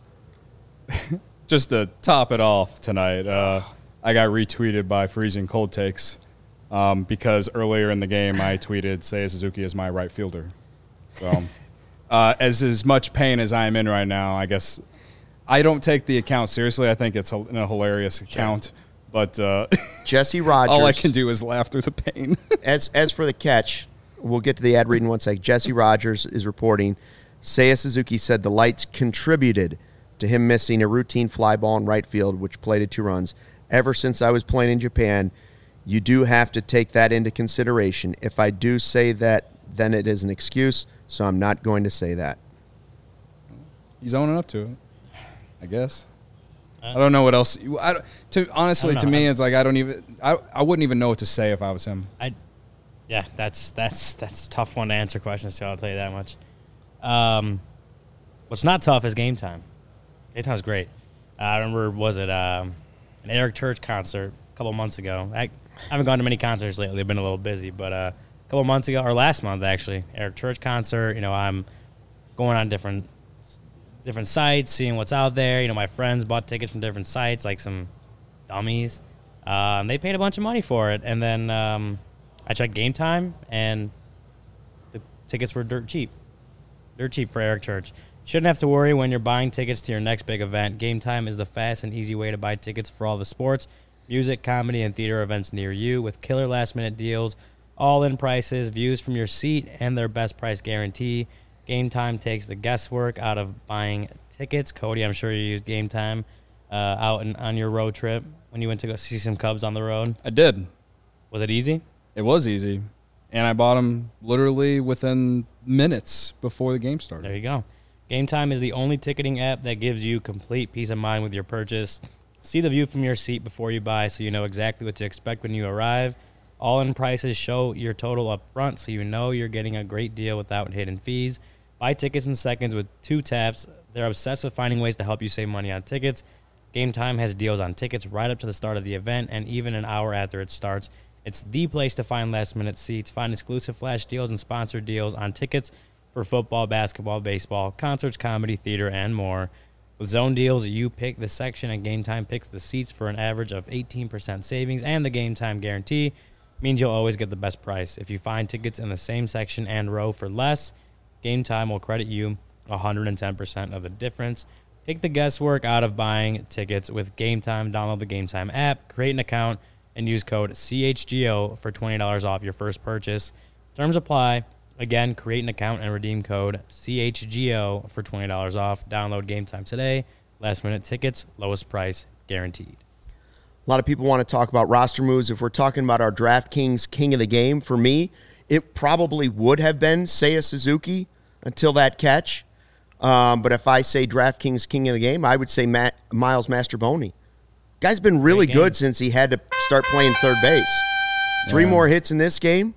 Speaker 5: I just to top it off tonight, uh, I got retweeted by Freezing Cold Takes um, because earlier in the game I tweeted Seiya Suzuki is my right fielder. So, uh, as as much pain as I am in right now, I guess I don't take the account seriously. I think it's a, a hilarious account. But uh,
Speaker 1: Jesse Rogers.
Speaker 5: all I can do is laugh through the pain.
Speaker 1: as as for the catch, we'll get to the ad read in one second. Jesse Rogers is reporting Seiya Suzuki said the lights contributed to him missing a routine fly ball in right field, which plated two runs. Ever since I was playing in Japan, you do have to take that into consideration. If I do say that, then it is an excuse, so I'm not going to say that.
Speaker 3: He's owning up to it, I guess. I don't know what else. I, don't- to honestly,
Speaker 2: I don't
Speaker 3: to
Speaker 2: know.
Speaker 3: me, it's like I don't even. I, I wouldn't even know what to say if I was him.
Speaker 2: I, yeah, that's that's that's a tough one to answer questions to. I'll tell you that much. Um, what's not tough is game time. Game time's great. Uh, I remember was it um, an Eric Church concert a couple months ago. I, I haven't gone to many concerts lately. I've been a little busy, but uh, a couple months ago or last month actually, Eric Church concert. You know, I'm going on different different sites, seeing what's out there. You know, my friends bought tickets from different sites, like some dummies. Uh, and they paid a bunch of money for it. And then um, I checked Game Time, and the tickets were dirt cheap. Dirt cheap for Eric Church. Shouldn't have to worry when you're buying tickets to your next big event. Game Time is the fast and easy way to buy tickets for all the sports, music, comedy, and theater events near you with killer last-minute deals, all-in prices, views from your seat, and their best price guarantee. Game Time takes the guesswork out of buying tickets. Cody, I'm sure you used Game Time uh, out in, on your road trip when you went to go see some Cubs on the road.
Speaker 5: I did.
Speaker 2: Was it easy?
Speaker 5: It was easy. And I bought them literally within minutes before the game started.
Speaker 2: There you go. Game Time is the only ticketing app that gives you complete peace of mind with your purchase. See the view from your seat before you buy so you know exactly what to expect when you arrive. All-in prices show your total up front so you know you're getting a great deal without hidden fees. Buy tickets in seconds with two taps. They're obsessed with finding ways to help you save money on tickets. Game Time has deals on tickets right up to the start of the event and even an hour after it starts. It's the place to find last-minute seats. Find exclusive flash deals and sponsored deals on tickets for football, basketball, baseball, concerts, comedy, theater, and more. With zone deals, you pick the section and Game Time picks the seats for an average of eighteen percent savings, and the Game Time guarantee means you'll always get the best price. If you find tickets in the same section and row for less, Game Time will credit you one hundred ten percent of the difference. Take the guesswork out of buying tickets with Game Time. Download the Game Time app, create an account, and use code C H G O for twenty dollars off your first purchase. Terms apply. Again, create an account and redeem code C H G O for twenty dollars off. Download Game Time today. Last minute tickets, lowest price guaranteed.
Speaker 1: A lot of people want to talk about roster moves. If we're talking about our DraftKings king of the game, for me, it probably would have been Seiya Suzuki until that catch. Um, but if I say DraftKings king of the game, I would say Matt, Miles Mastrobuoni. Guy's been really good since he had to start playing third base. Three
Speaker 5: Yeah.
Speaker 1: more hits in this game.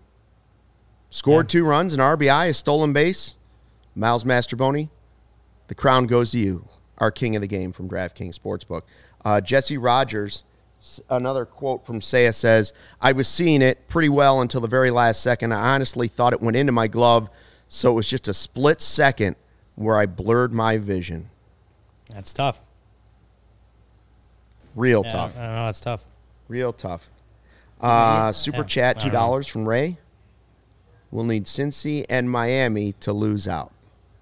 Speaker 1: Scored
Speaker 2: Yeah.
Speaker 1: two runs, an R B I, a stolen base. Miles Mastrobuoni, the crown goes to you, our king of the game from DraftKings Sportsbook. Uh, Jesse Rogers, s- another quote from Seiya says, I was seeing it pretty well until the very last second. I honestly thought it went into my glove, so it was just a split second where I blurred my vision.
Speaker 2: That's tough.
Speaker 1: Real
Speaker 2: Yeah,
Speaker 1: tough.
Speaker 2: I don't know. That's tough.
Speaker 1: Real tough. Uh, super
Speaker 2: Yeah,
Speaker 1: chat,
Speaker 2: I
Speaker 1: two
Speaker 2: don't know.
Speaker 1: dollars from Ray. We'll need Cincy and Miami to lose out.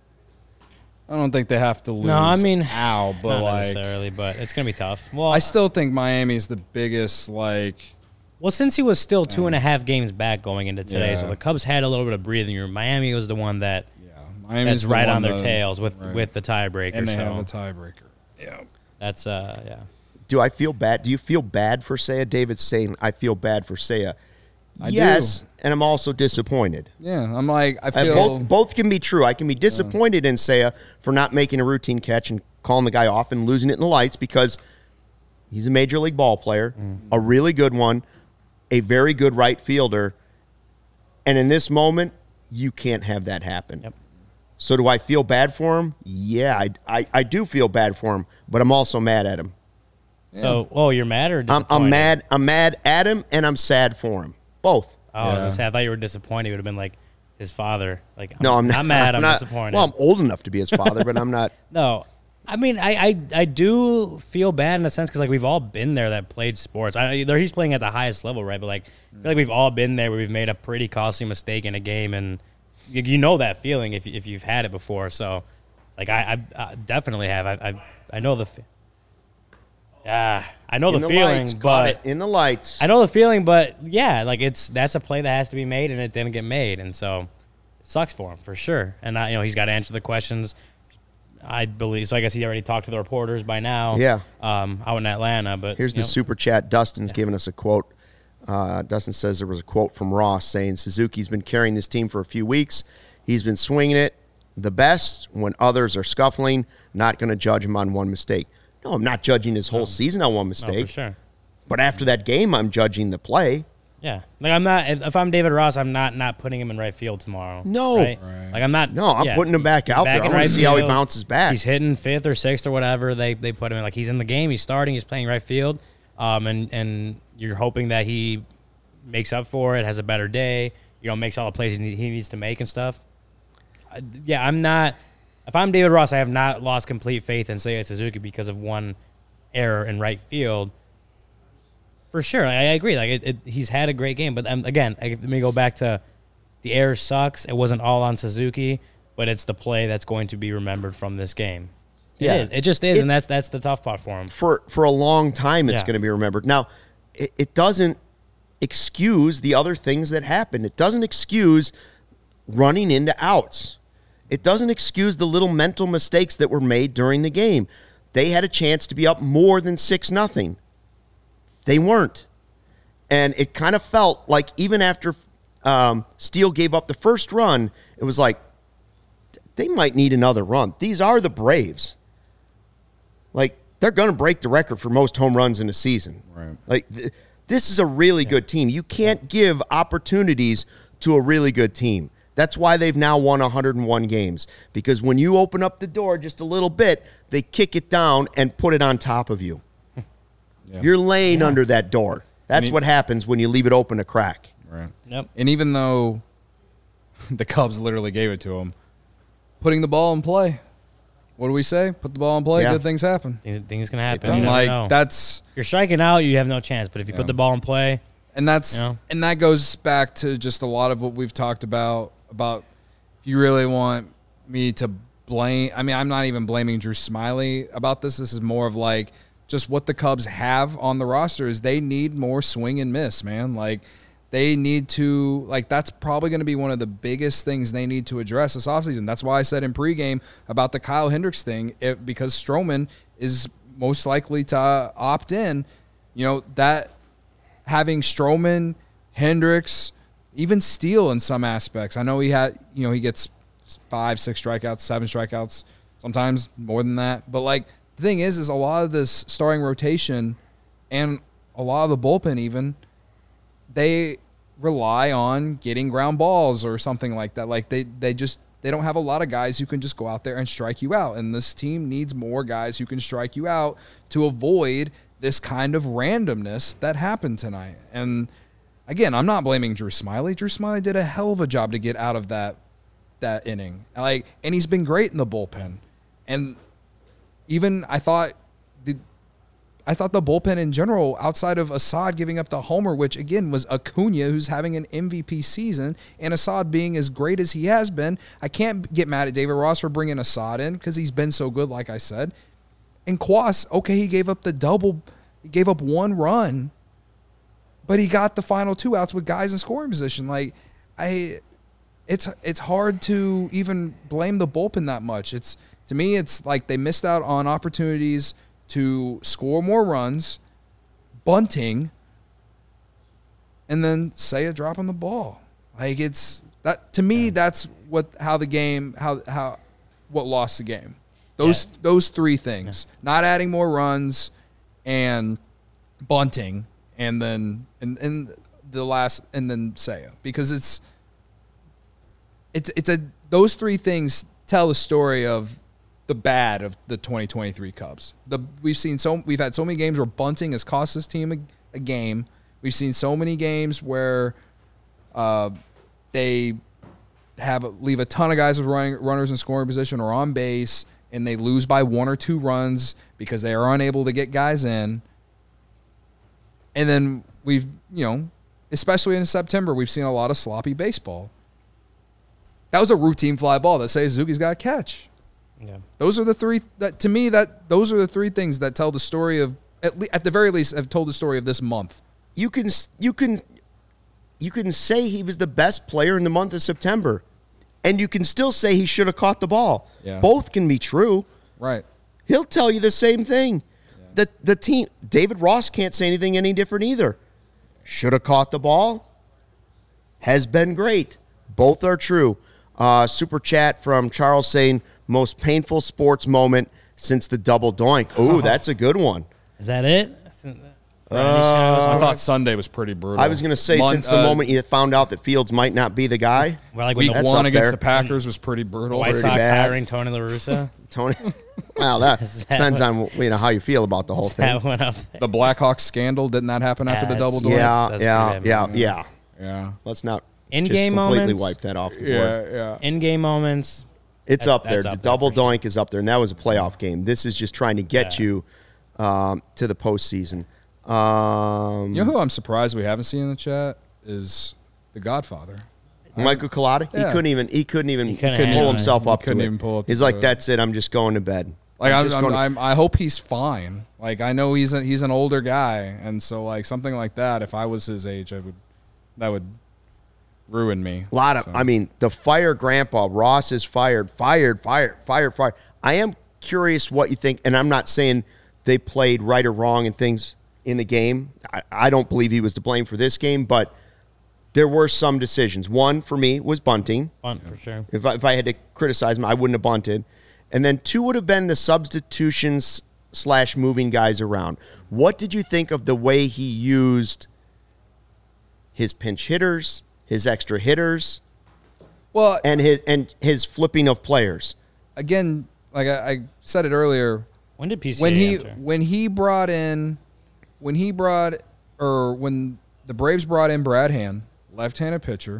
Speaker 5: I don't think they have to lose.
Speaker 2: No, I mean,
Speaker 5: ow, but
Speaker 2: Not
Speaker 5: like,
Speaker 2: necessarily, but it's going to be tough. Well,
Speaker 5: I still think Miami's the biggest. Like,
Speaker 2: well, since he was still two and a half games back going into today, so
Speaker 5: Yeah.
Speaker 2: the Cubs had a little bit of breathing room. Miami was the one that
Speaker 5: yeah, Miami's
Speaker 2: that's
Speaker 5: the
Speaker 2: right
Speaker 5: one
Speaker 2: on their
Speaker 5: that-
Speaker 2: tails with
Speaker 5: right.
Speaker 2: with the tiebreaker.
Speaker 5: and they
Speaker 2: so
Speaker 5: have a tiebreaker. Yeah,
Speaker 2: that's uh yeah.
Speaker 1: Do I feel bad? Do you feel bad for Seiya? David's saying, I feel bad for Seiya.
Speaker 5: I
Speaker 1: yes,
Speaker 5: do.
Speaker 1: and I'm also disappointed.
Speaker 5: yeah. I'm like, I
Speaker 1: Uh,
Speaker 5: feel
Speaker 1: both both can be true. I can be disappointed in Seiya for not making a routine catch and calling the guy off and losing it in the lights because he's a major league ball player, a really good one, a very good right fielder, and in this moment, you can't have that happen.
Speaker 2: Yep.
Speaker 1: So do I feel bad for him? Yeah, I, I, I do feel bad for him, but I'm also mad at him.
Speaker 2: So, oh, you're mad or
Speaker 1: I'm,
Speaker 2: disappointed?
Speaker 1: I'm mad. I'm mad at him, and I'm sad for him. Both.
Speaker 2: Oh, I was
Speaker 5: Yeah.
Speaker 2: gonna say, I thought you were disappointed. It would have been like his father. Like,
Speaker 1: No, I'm not
Speaker 2: mad. I'm,
Speaker 1: not,
Speaker 2: disappointed.
Speaker 1: Well, I'm old enough to be his father, but I'm not.
Speaker 2: No, I mean, I, I, I do feel bad in a sense because like we've all been there that played sports. I there he's playing at the highest level, right? But like, I feel like we've all been there where we've made a pretty costly mistake in a game, and you, you know that feeling if if you've had it before. So, like, I, I, I definitely have. I, I, I know the. Fe- yeah, I know
Speaker 1: In
Speaker 2: the,
Speaker 1: the
Speaker 2: feeling,
Speaker 1: lights, caught
Speaker 2: but
Speaker 1: it in the lights.
Speaker 2: I know the feeling, but yeah, like it's that's a play that has to be made, and it didn't get made, and so it sucks for him for sure. And I, you know, he's got to answer the questions. I believe so. I guess he already talked to the reporters by now.
Speaker 1: Yeah.
Speaker 2: Um, out in Atlanta, but
Speaker 1: Here's
Speaker 2: you
Speaker 1: the
Speaker 2: know,
Speaker 1: super chat. Dustin's giving us a quote. Uh, Dustin says there was a quote from Ross saying Suzuki's been carrying this team for a few weeks. He's been swinging it the best when others are scuffling. Not going to judge him on one mistake. No, I'm not judging his whole season on one
Speaker 2: no,
Speaker 1: mistake.
Speaker 2: for sure.
Speaker 1: But after that game, I'm judging the play.
Speaker 2: Yeah, like I'm not. If if I'm David Ross, I'm not not putting him in right field tomorrow.
Speaker 1: No.
Speaker 2: right?
Speaker 5: Right.
Speaker 2: Like I'm not.
Speaker 1: No, I'm
Speaker 2: yeah,
Speaker 1: putting him back
Speaker 2: he's
Speaker 1: out there. I
Speaker 2: in
Speaker 1: want
Speaker 2: right
Speaker 1: to see how he
Speaker 2: field.
Speaker 1: bounces back.
Speaker 2: He's hitting fifth or sixth or whatever they they put him in. Like he's in the game. He's starting. He's playing right field. Um, and and you're hoping that he makes up for it, has a better day. You know, makes all the plays he need- he needs to make and stuff. Uh, yeah, I'm not. If I'm David Ross, I have not lost complete faith in Seiya Suzuki because of one error in right field. For sure, I, I agree. Like it, it, he's had a great game, but um, again, I, let me go back to the error sucks. It wasn't all on Suzuki, but it's the play that's going to be remembered from this game. It
Speaker 1: Yeah.
Speaker 2: is. It just is, and
Speaker 1: It's-
Speaker 2: that's that's the tough part for him.
Speaker 1: for for a long time it's
Speaker 2: Yeah.
Speaker 1: going to be remembered. Now, it, it doesn't excuse the other things that happened. It doesn't excuse running into outs. It doesn't excuse the little mental mistakes that were made during the game. They had a chance to be up more than six nothing. They weren't. And it kind of felt like even after um, Steele gave up the first run, it was like, they might need another run. These are the Braves. Like, they're going to break the record for most home runs in a season.
Speaker 5: Right.
Speaker 1: Like, th- this is a really yeah. good team. You can't give opportunities to a really good team. That's why they've now won one hundred one games. Because when you open up the door just a little bit, they kick it down and put it on top of you. Yeah. You're laying yeah. under that door. That's I mean, what happens when you leave it open a crack.
Speaker 5: Right.
Speaker 2: Yep.
Speaker 3: And even though the Cubs literally gave it to them, putting the ball in play. What do we say? Put the ball in play, yeah. good things happen.
Speaker 2: Things, things can happen.
Speaker 3: And
Speaker 2: you
Speaker 3: like
Speaker 2: know.
Speaker 3: that's
Speaker 2: you're striking out, you have no chance. But if you
Speaker 3: yeah.
Speaker 2: put the ball in play,
Speaker 3: and that's
Speaker 2: you know.
Speaker 3: and that goes back to just a lot of what we've talked about about if you really want me to blame. I mean, I'm not even blaming Drew Smyly about this. This is more of like just what the Cubs have on the roster is they need more swing and miss, man. Like. They need to, like, that's probably going to be one of the biggest things they need to address this offseason. That's why I said in pregame about the Kyle Hendricks thing, it, because Stroman is most likely to uh, opt in. You know, that having Stroman, Hendricks, even Steele in some aspects. I know he had, you know, he gets five, six strikeouts, seven strikeouts, sometimes more than that. But, like, the thing is, is a lot of this starting rotation and a lot of the bullpen even – they rely on getting ground balls or something like that. Like they, they just they don't have a lot of guys who can just go out there and strike you out. And this team needs more guys who can strike you out to avoid this kind of randomness that happened tonight. And again, I'm not blaming Drew Smyly. Drew Smyly did a hell of a job to get out of that that inning. Like, and he's been great in the bullpen. And even I thought the I thought the bullpen in general, outside of Assad giving up the homer, which again was Acuna, who's having an M V P season, and Assad being as great as he has been, I can't get mad at David Ross for bringing Assad in because he's been so good, like I said. And Kwas, okay, he gave up the double, he gave up one run, but he got the final two outs with guys in scoring position. Like, I, it's it's hard to even blame the bullpen that much. It's to me, it's like they missed out on opportunities to score more runs, bunting, and then Seiya dropping the ball. Like it's that to me, yeah. that's what how the game how how what lost the game. Those yeah. those three things: yeah. not adding more runs, and bunting, and then and and the last and then Seiya, because it's it's it's a those three things tell the story of the bad of the twenty twenty-three Cubs. The we've seen so we've had so many games where bunting has cost this team a, a game. We've seen so many games where uh, they have leave a ton of guys with running runners in scoring position or on base, and they lose by one or two runs because they are unable to get guys in. And then we've you know, especially in September, we've seen a lot of sloppy baseball. That was a routine fly ball that says Suzuki's got to catch. Yeah. Those are the three that to me that those are the three things that tell the story of at, le- at the very least have told the story of this month.
Speaker 1: You can you can you can say he was the best player in the month of September, and you can still say he should have caught the ball.
Speaker 3: Yeah.
Speaker 1: Both can be true.
Speaker 3: Right.
Speaker 1: He'll tell you the same thing. Yeah. The the team David Ross can't say anything any different either. Should have caught the ball. Has been great. Both are true. Uh, super chat from Charles saying, most painful sports moment since the double doink. Ooh, that's a good one.
Speaker 2: Is that it?
Speaker 3: Uh, I thought Sunday was pretty brutal.
Speaker 1: I was going to say, Mon- since the uh, moment you found out that Fields might not be the guy.
Speaker 2: Well, like
Speaker 3: week
Speaker 2: the,
Speaker 3: one against there. the Packers was pretty brutal.
Speaker 2: White
Speaker 1: pretty
Speaker 2: Sox
Speaker 1: bad.
Speaker 2: hiring Tony La Russa.
Speaker 1: Tony, well, that, that depends what, on you know how you feel about the whole thing.
Speaker 2: That went up there.
Speaker 3: The Blackhawks scandal, didn't that happen
Speaker 2: yeah,
Speaker 3: after the double doink?
Speaker 1: Yeah,
Speaker 2: That's
Speaker 1: yeah, yeah,
Speaker 2: bad,
Speaker 1: yeah,
Speaker 3: yeah.
Speaker 1: Let's not
Speaker 2: in-game
Speaker 1: just completely
Speaker 2: moments.
Speaker 1: wipe that off the board.
Speaker 3: Yeah, yeah.
Speaker 2: In-game moments.
Speaker 1: It's
Speaker 2: that,
Speaker 1: up there. The
Speaker 2: up
Speaker 1: double
Speaker 2: there
Speaker 1: doink sure. is up there, and that was a playoff game. This is just trying to get
Speaker 2: yeah.
Speaker 1: you um, to the postseason. Um,
Speaker 3: you know who I'm surprised we haven't seen in the chat is the Godfather.
Speaker 1: Michael Collada.
Speaker 3: Yeah.
Speaker 1: He couldn't even. He couldn't even
Speaker 2: he
Speaker 1: couldn't
Speaker 2: couldn't
Speaker 1: pull himself
Speaker 3: he
Speaker 1: up.
Speaker 3: couldn't
Speaker 1: to
Speaker 3: even
Speaker 1: it.
Speaker 3: pull up.
Speaker 1: He's like, "That's it. I'm just going to bed."
Speaker 3: Like
Speaker 1: I'm
Speaker 3: I'm,
Speaker 1: just
Speaker 3: I'm,
Speaker 1: going to-
Speaker 3: I'm, I hope he's fine. Like I know he's a, he's an older guy, and so like something like that. If I was his age, I would that would
Speaker 5: ruined me.
Speaker 1: A lot of,
Speaker 5: So.
Speaker 1: I mean, the fire grandpa, Ross is fired, fired, fired, fired, fired. I am curious what you think, and I'm not saying they played right or wrong and things in the game. I, I don't believe he was to blame for this game, but there were some decisions. One, for me, was bunting.
Speaker 2: Bunt for sure.
Speaker 1: If I, if I had to criticize him, I wouldn't have bunted. And then two would have been the substitutions slash moving guys around. What did you think of the way he used his pinch hitters, his extra hitters,
Speaker 3: Well,
Speaker 1: and his and his flipping of players?
Speaker 3: again, like I, I said it earlier,
Speaker 2: When did P C A
Speaker 3: when he
Speaker 2: enter?
Speaker 3: when he brought in when he brought or when the Braves brought in Brad Hand, left-handed pitcher,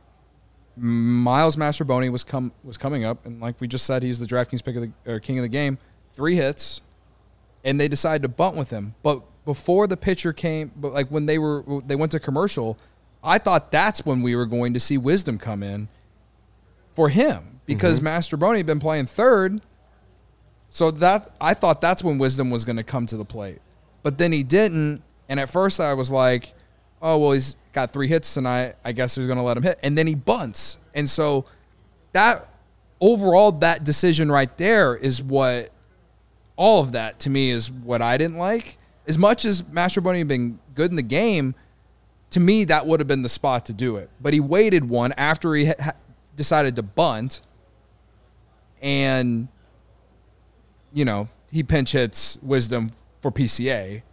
Speaker 3: Miles Mastroboni was come was coming up, and like we just said, he's the DraftKings pick of the or king of the game. Three hits, and they decided to bunt with him. But before the pitcher came, but like when they were they went to commercial, I thought that's when we were going to see Wisdom come in for him because
Speaker 1: Mm-hmm.
Speaker 3: Mastroboni had been playing third. So that I thought that's when Wisdom was going to come to the plate, but then he didn't. And at first I was like, "Oh well, he's got three hits tonight. I guess he's going to let him hit." And then he bunts, and so that overall that decision right there is what all of that to me is what I didn't like. As much as Mastroboni had been good in the game, to me that would have been the spot to do it. But he waited one after he ha- decided to bunt, and you know, he pinch hits Wisdom for P C A,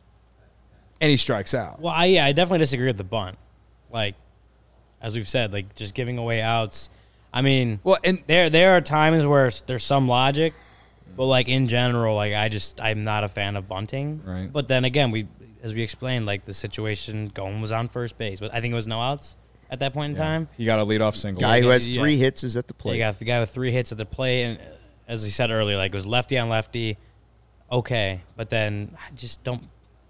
Speaker 3: and he strikes out.
Speaker 2: Well, I, yeah, I definitely disagree with the bunt. Like, as we've said, like just giving away outs. I mean,
Speaker 3: Well, and
Speaker 2: there there are times where s- there's some logic, but like in general, like I just I'm not a fan of bunting.
Speaker 3: Right.
Speaker 2: But then again, we as we explained, like the situation, Gomes was on first base, but I think it was no outs at that point in time.
Speaker 5: He got a leadoff single.
Speaker 1: Guy who has
Speaker 2: yeah.
Speaker 1: three hits is at the
Speaker 2: You
Speaker 1: plate.
Speaker 2: got the guy with three hits at the plate, and uh, as he said earlier, like it was lefty on lefty. Okay, but then just don't,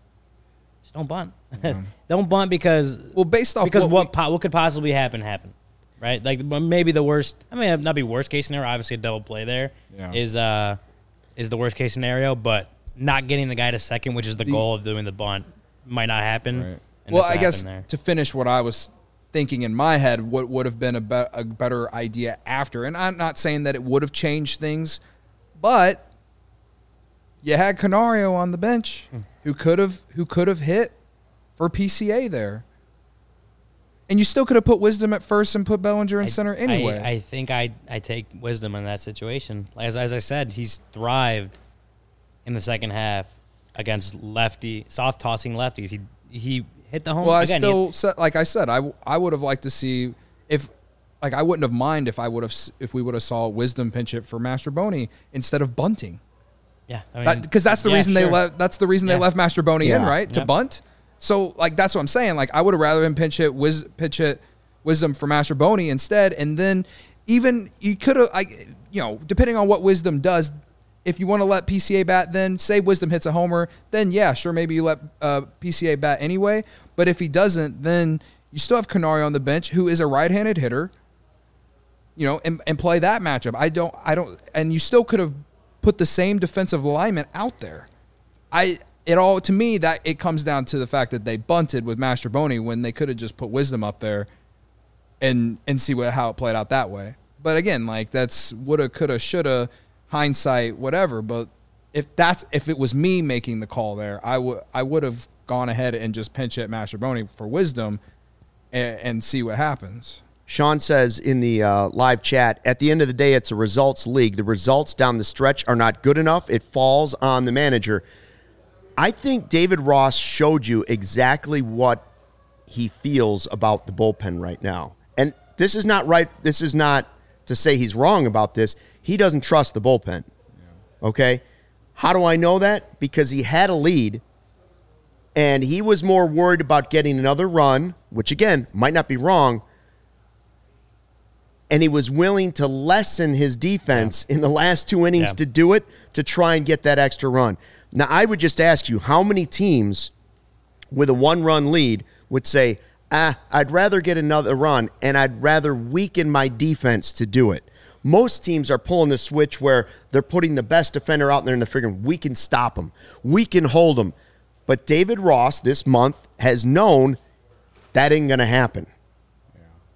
Speaker 2: just don't bunt. Don't bunt because
Speaker 3: well, based off
Speaker 2: because
Speaker 3: what,
Speaker 2: what
Speaker 3: we-
Speaker 2: po- what could possibly happen happen, right? Like well, maybe the worst. I mean, not be worst case scenario. Obviously, a double play there is
Speaker 5: Yeah.
Speaker 2: uh is the worst case scenario, but not getting the guy to second, which is the, goal of doing the bunt, might not happen.
Speaker 5: Right.
Speaker 2: And
Speaker 3: well,
Speaker 2: that's
Speaker 3: I
Speaker 2: what
Speaker 3: guess
Speaker 2: happened there.
Speaker 3: to finish what I was thinking in my head, what would have been a, be- a better idea after, and I'm not saying that it would have changed things, but you had Canario on the bench
Speaker 2: Hmm.
Speaker 3: who could have who could have hit for P C A there, and you still could have put Wisdom at first and put Bellinger in
Speaker 2: I-
Speaker 3: center anyway.
Speaker 2: I, I think I I take Wisdom in that situation. As as I said, he's thrived in the second half against lefty, soft tossing lefties. He he hit the home.
Speaker 3: Well, I
Speaker 2: again, he-
Speaker 3: still said, like I said, I, I would have liked to see if, like, I wouldn't have mind if I would have s- if we would have saw Wisdom pinch it for Mastroboni instead of bunting,
Speaker 2: yeah, I mean,
Speaker 3: because that's the
Speaker 2: yeah,
Speaker 3: reason
Speaker 2: sure.
Speaker 3: they left. That's the reason
Speaker 2: Yeah.
Speaker 3: they left Mastroboni in,
Speaker 1: Yeah.
Speaker 3: right, to
Speaker 2: Yep.
Speaker 3: bunt. So, like, that's what I'm saying. Like, I would have rather him pinch it, Wiz, pitch it, Wisdom for Mastroboni instead, and then even you could have, like, you know, depending on what Wisdom does. If you want to let P C A bat, then say Wisdom hits a homer, then yeah, sure, maybe you let uh, P C A bat anyway. But if he doesn't, then you still have Canario on the bench, who is a right-handed hitter, you know, and, and play that matchup. I don't, I don't, and you still could have put the same defensive alignment out there. I, it all to me that it comes down to the fact that they bunted with Mastroboni when they could have just put Wisdom up there, and and see what how it played out that way. But again, like that's woulda, coulda, shoulda. Hindsight, whatever, but if that's if it was me making the call there, I would I would have gone ahead and just pinch hit Mastroboni for Wisdom and, and see what happens.
Speaker 1: Sean says in the uh, live chat, at the end of the day, it's a results league. The results down the stretch are not good enough. It falls on the manager. I think David Ross showed you exactly what he feels about the bullpen right now. And this is not right. This is not to say he's wrong about this. He doesn't trust the bullpen. Okay? How do I know that? Because he had a lead, and he was more worried about getting another run, which, again, might not be wrong, and he was willing to lessen his defense in the last two innings
Speaker 2: Yeah.
Speaker 1: to do it, to try and get that extra run. Now, I would just ask you, how many teams with a one-run lead would say, ah, I'd rather get another run, and I'd rather weaken my defense to do it? Most teams are pulling the switch where they're putting the best defender out there and they're figuring, we can stop him. We can hold him. But David Ross this month has known that ain't going to happen.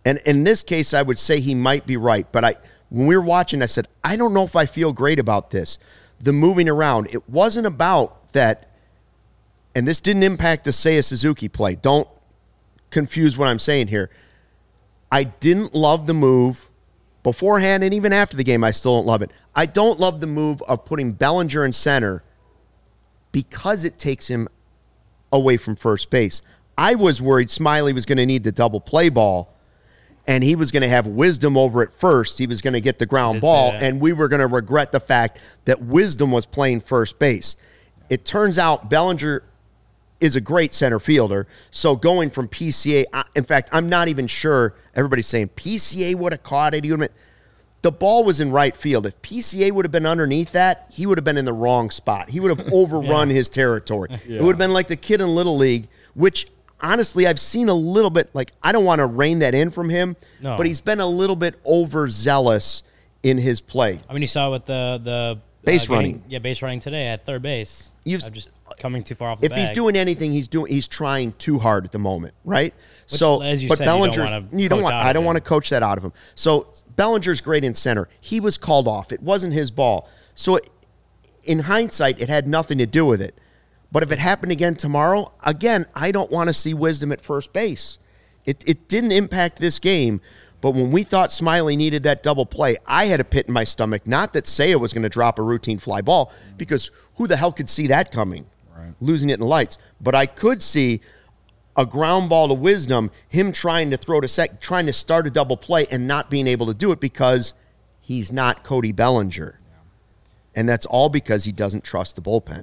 Speaker 1: And in this case, I would say he might be right. But I, when we were watching, I said, I don't know if I feel great about this. The moving around. It wasn't about that, and this didn't impact the Seiya Suzuki play. Don't confuse what I'm saying here. I didn't love the move beforehand, and even after the game, I still don't love it. I don't love the move of putting Bellinger in center because it takes him away from first base. I was worried Smiley was going to need the double play ball, and he was going to have Wisdom over at first. He was going to get the ground ball, and we were going to regret the fact that Wisdom was playing first base. It turns out Bellinger is a great center fielder, so going from P C A, in fact, I'm not even sure, everybody's saying P C A would have caught it. He would have been, the ball was in right field. If P C A would have been underneath that, he would have been in the wrong spot. He would have overrun yeah. his territory. Yeah. It would have been like the kid in Little League, which honestly, I've seen a little bit, like, I don't want to rein that in from him, no. but he's been a little bit overzealous in his play.
Speaker 2: I mean, you saw with the the
Speaker 1: base
Speaker 2: uh,
Speaker 1: running.
Speaker 2: Getting, yeah, base running today at third base.
Speaker 1: You've,
Speaker 2: I'm just coming too far off the
Speaker 1: If
Speaker 2: bag.
Speaker 1: he's doing anything, he's doing he's trying too hard at the moment, right?
Speaker 2: Which,
Speaker 1: so,
Speaker 2: as you
Speaker 1: but
Speaker 2: said,
Speaker 1: Bellinger,
Speaker 2: you don't want to
Speaker 1: you don't
Speaker 2: coach
Speaker 1: want.
Speaker 2: out
Speaker 1: I
Speaker 2: of
Speaker 1: don't
Speaker 2: him.
Speaker 1: want to coach that out of him. So Bellinger's great in center. He was called off. It wasn't his ball. So, it, in hindsight, it had nothing to do with it. But if it happened again tomorrow, again, I don't want to see Wisdom at first base. It it didn't impact this game, but when we thought Smiley needed that double play, I had a pit in my stomach. Not that Seiya was going to drop a routine fly ball, because who the hell could see that coming? Right. Losing it in the lights. But I could see a ground ball to Wisdom, him trying to throw to sec, trying to start a double play and not being able to do it because he's not Cody Bellinger. Yeah. And that's all because he doesn't trust the bullpen.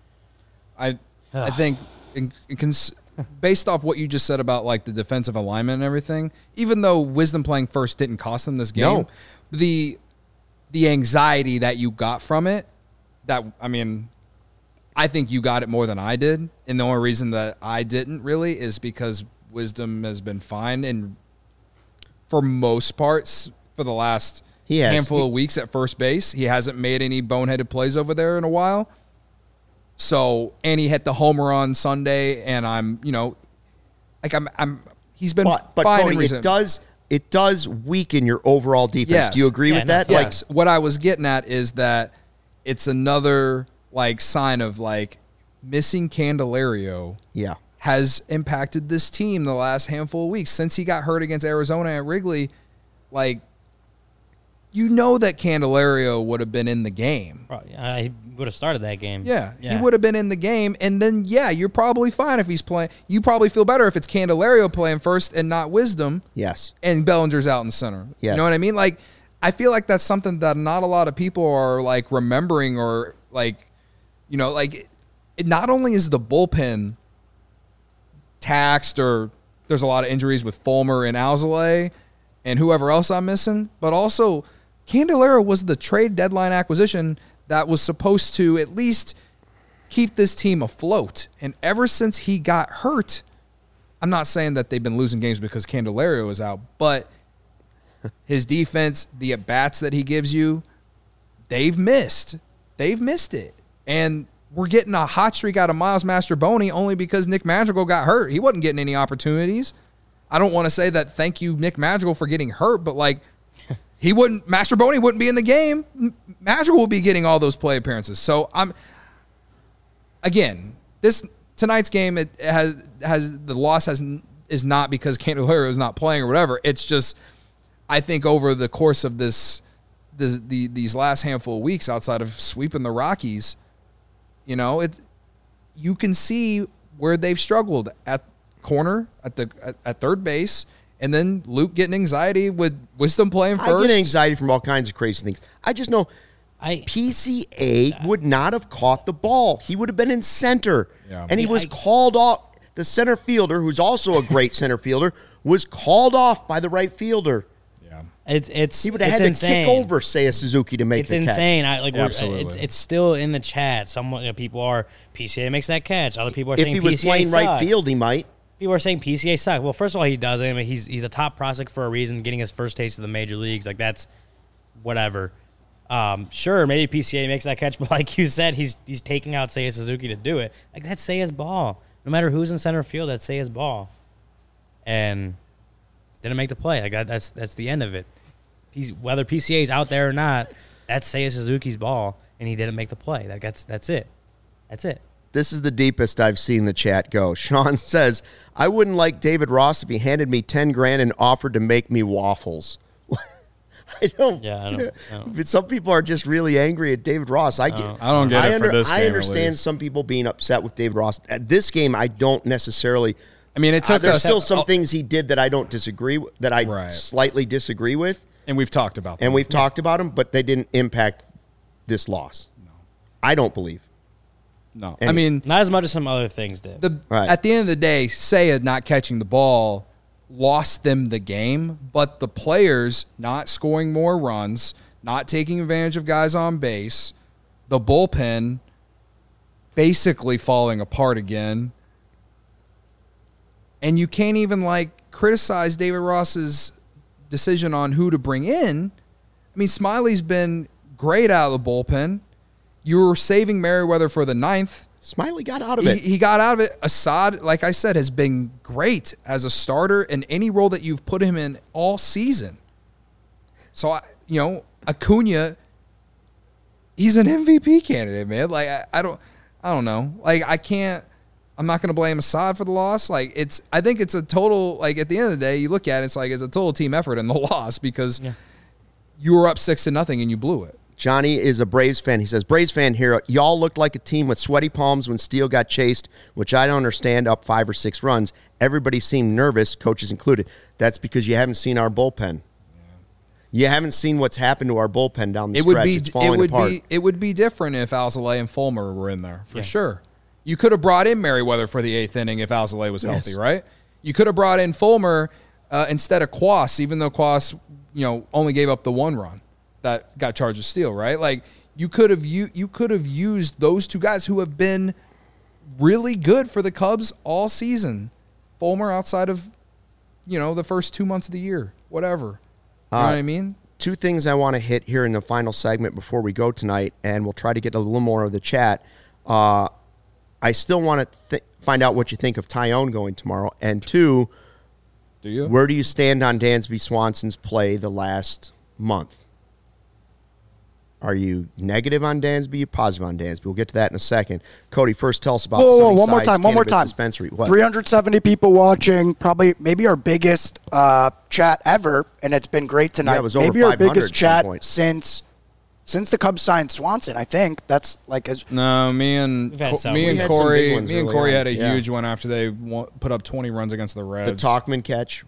Speaker 3: I I think in, in cons- based off what you just said about like the defensive alignment and everything, even though Wisdom playing first didn't cost them this game,
Speaker 1: no.
Speaker 3: the the anxiety that you got from it, that I mean, I think you got it more than I did, and the only reason that I didn't really is because Wisdom has been fine and for most parts for the last
Speaker 1: he has.
Speaker 3: handful
Speaker 1: he-
Speaker 3: of weeks at first base. He hasn't made any boneheaded plays over there in a while. So, and he hit the homer on Sunday, and I'm, you know, like I'm, I'm. He's been
Speaker 1: But, but
Speaker 3: fine.
Speaker 1: Cody,
Speaker 3: in
Speaker 1: it does it does weaken your overall defense.
Speaker 3: Yes.
Speaker 1: Do you agree
Speaker 2: Yeah,
Speaker 1: with
Speaker 2: no,
Speaker 1: that?
Speaker 3: Yes. What I was getting at is that it's another like sign of like missing Candelario
Speaker 1: Yeah.
Speaker 3: has impacted this team the last handful of weeks since he got hurt against Arizona at Wrigley. Like, you know that Candelario would have been in the game.
Speaker 2: Probably, uh, he would have started that game.
Speaker 3: Yeah, he would have been in the game, and then yeah, you're probably fine if he's playing. You probably feel better if it's Candelario playing first and not Wisdom.
Speaker 1: Yes.
Speaker 3: And Bellinger's out in center.
Speaker 1: Yes.
Speaker 3: You know what I mean? Like, I feel like that's something that not a lot of people are like remembering or like, you know, like it not only is the bullpen taxed or there's a lot of injuries with Fulmer and Alzolay and whoever else I'm missing, but also Candelario was the trade deadline acquisition that was supposed to at least keep this team afloat. And ever since he got hurt, I'm not saying that they've been losing games because Candelario is out, but his defense, the at-bats that he gives you, they've missed. They've missed it. And we're getting a hot streak out of Miles Mastroboni only because Nick Madrigal got hurt. He wasn't getting any opportunities. I don't want to say that thank you, Nick Madrigal, for getting hurt, but like, he wouldn't, Mastroboni wouldn't be in the game. Madrigal will be getting all those play appearances. So I'm, again, this tonight's game, it has has the loss has is not because Candelario is not playing or whatever. It's just, I think over the course of this, this the these last handful of weeks, outside of sweeping the Rockies, you know, it you can see where they've struggled at corner, at the at, at third base. And then Luke getting anxiety with Wisdom playing first.
Speaker 1: I get anxiety from all kinds of crazy things. I just know
Speaker 2: I
Speaker 1: P C A would not have caught the ball. He would have been in center.
Speaker 3: Yeah.
Speaker 1: And he
Speaker 2: Yeah,
Speaker 1: was
Speaker 2: I-
Speaker 1: called off. The center fielder, who's also a great center fielder, was called off by the right fielder.
Speaker 3: Yeah.
Speaker 2: it's it's
Speaker 1: He would have
Speaker 2: it's
Speaker 1: had
Speaker 2: insane.
Speaker 1: to kick over Seiya Suzuki to make
Speaker 2: It's
Speaker 1: the catch.
Speaker 2: insane. I like. we're-
Speaker 3: Absolutely.
Speaker 2: It's it's still in the chat. Some you know, people are P C A makes that catch. Other people are
Speaker 1: If
Speaker 2: saying
Speaker 1: he was
Speaker 2: P C A
Speaker 1: playing right
Speaker 2: sucks.
Speaker 1: field, he might.
Speaker 2: People are saying P C A suck. Well, first of all, he doesn't. I mean, he's he's a top prospect for a reason, getting his first taste of the major leagues. Like, that's whatever. Um, sure, maybe P C A makes that catch, but like you said, he's he's taking out Seiya Suzuki to do it. Like, that's Seiya's ball. No matter who's in center field, that's Seiya's ball. And Didn't make the play. I got that's that's the end of it. He's, whether P C A is out there or not, that's Seiya Suzuki's ball, and he didn't make the play. That, that's that's it. That's it.
Speaker 1: This is the deepest I've seen the chat go. Sean says, I wouldn't like David Ross if he handed me ten grand and offered to make me waffles. I don't.
Speaker 2: Yeah, I don't. I don't.
Speaker 1: Some people are just really angry at David Ross. I get.
Speaker 5: I don't get
Speaker 1: I
Speaker 5: it for this
Speaker 1: I
Speaker 5: game, at
Speaker 1: understand
Speaker 5: least.
Speaker 1: some people being upset with David Ross. At this game, I don't necessarily.
Speaker 3: I mean, it
Speaker 1: Uh,
Speaker 3: took
Speaker 1: there's
Speaker 3: us.
Speaker 1: still some
Speaker 3: oh,
Speaker 1: things he did that I don't disagree with, that I
Speaker 3: Right.
Speaker 1: slightly disagree with,
Speaker 5: And we've talked about that.
Speaker 1: and we've talked about them, but they didn't impact this loss. No. I don't believe.
Speaker 5: No.
Speaker 3: I mean,
Speaker 2: Not as much as some other things did.
Speaker 3: the
Speaker 1: Right.
Speaker 3: at the end of the day, Seiya not catching the ball lost them the game, but the players not scoring more runs, not taking advantage of guys on base, the bullpen basically falling apart again. And you can't even like criticize David Ross's decision on who to bring in. I mean, Smiley's been great out of the bullpen. You were saving Merriweather for the ninth.
Speaker 1: Smiley got out of
Speaker 3: He,
Speaker 1: it.
Speaker 3: he got out of it. Assad, like I said, has been great as a starter in any role that you've put him in all season. So, I, you know, Acuna, he's an M V P candidate, man. Like, I, I don't, I don't know. Like, I can't. I'm not going to blame Assad for the loss. Like, it's. I think it's a total. Like, at the end of the day, you look at it, it's like it's a total team effort in the loss because
Speaker 2: Yeah.
Speaker 3: you were up six to nothing and you blew it.
Speaker 1: Johnny is a Braves fan. He says, Braves fan here, y'all looked like a team with sweaty palms when Steele got chased, which I don't understand, up five or six runs. Everybody seemed nervous, coaches included. That's because you haven't seen our bullpen. You haven't seen what's happened to our bullpen down the
Speaker 3: It
Speaker 1: stretch.
Speaker 3: would be
Speaker 1: It's falling
Speaker 3: it would
Speaker 1: apart.
Speaker 3: be it would be different if Alzolay and Fulmer were in there for
Speaker 2: Yeah.
Speaker 3: sure. You could have brought in Merriweather for the eighth inning if Alzolay was healthy,
Speaker 1: Yes.
Speaker 3: right? You could have brought in Fulmer uh, instead of Quas, even though Quas, you know, only gave up the one run that got charged with steal, right? Like you could have you you could have used those two guys who have been really good for the Cubs all season. Fulmer outside of, you know, the first two months of the year, whatever. You know
Speaker 1: Uh,
Speaker 3: what I mean?
Speaker 1: Two things I want to hit here in the final segment before we go tonight, and we'll try to get a little more of the chat. Uh, I still want to th- find out what you think of Tyone going tomorrow. And two,
Speaker 3: Do you?
Speaker 1: where do you stand on Dansby Swanson's play the last month? Are you negative on Dansby? You positive on Dansby? We'll get to that in a second. Cody, first tell us about
Speaker 4: Whoa, whoa, one more
Speaker 1: Sunnyside's
Speaker 4: time, one more
Speaker 1: Cannabis
Speaker 4: time.
Speaker 1: Dispensary. What?
Speaker 4: three hundred seventy people watching, probably maybe our biggest uh, chat ever, and it's been great tonight.
Speaker 1: Yeah, it was over
Speaker 4: maybe our
Speaker 1: five hundred
Speaker 4: biggest
Speaker 1: at some
Speaker 4: chat
Speaker 1: point.
Speaker 4: since since the Cubs signed Swanson. I think that's like as
Speaker 3: No, me and
Speaker 2: We've had
Speaker 3: Co-
Speaker 2: some.
Speaker 3: me
Speaker 2: We
Speaker 3: and
Speaker 1: had some big
Speaker 3: Corey,
Speaker 1: ones
Speaker 3: me and
Speaker 1: early
Speaker 3: Corey
Speaker 1: on,
Speaker 3: had a
Speaker 1: yeah.
Speaker 3: huge one after they wa- put up twenty runs against the
Speaker 1: The
Speaker 3: Reds.
Speaker 1: Talkman catch.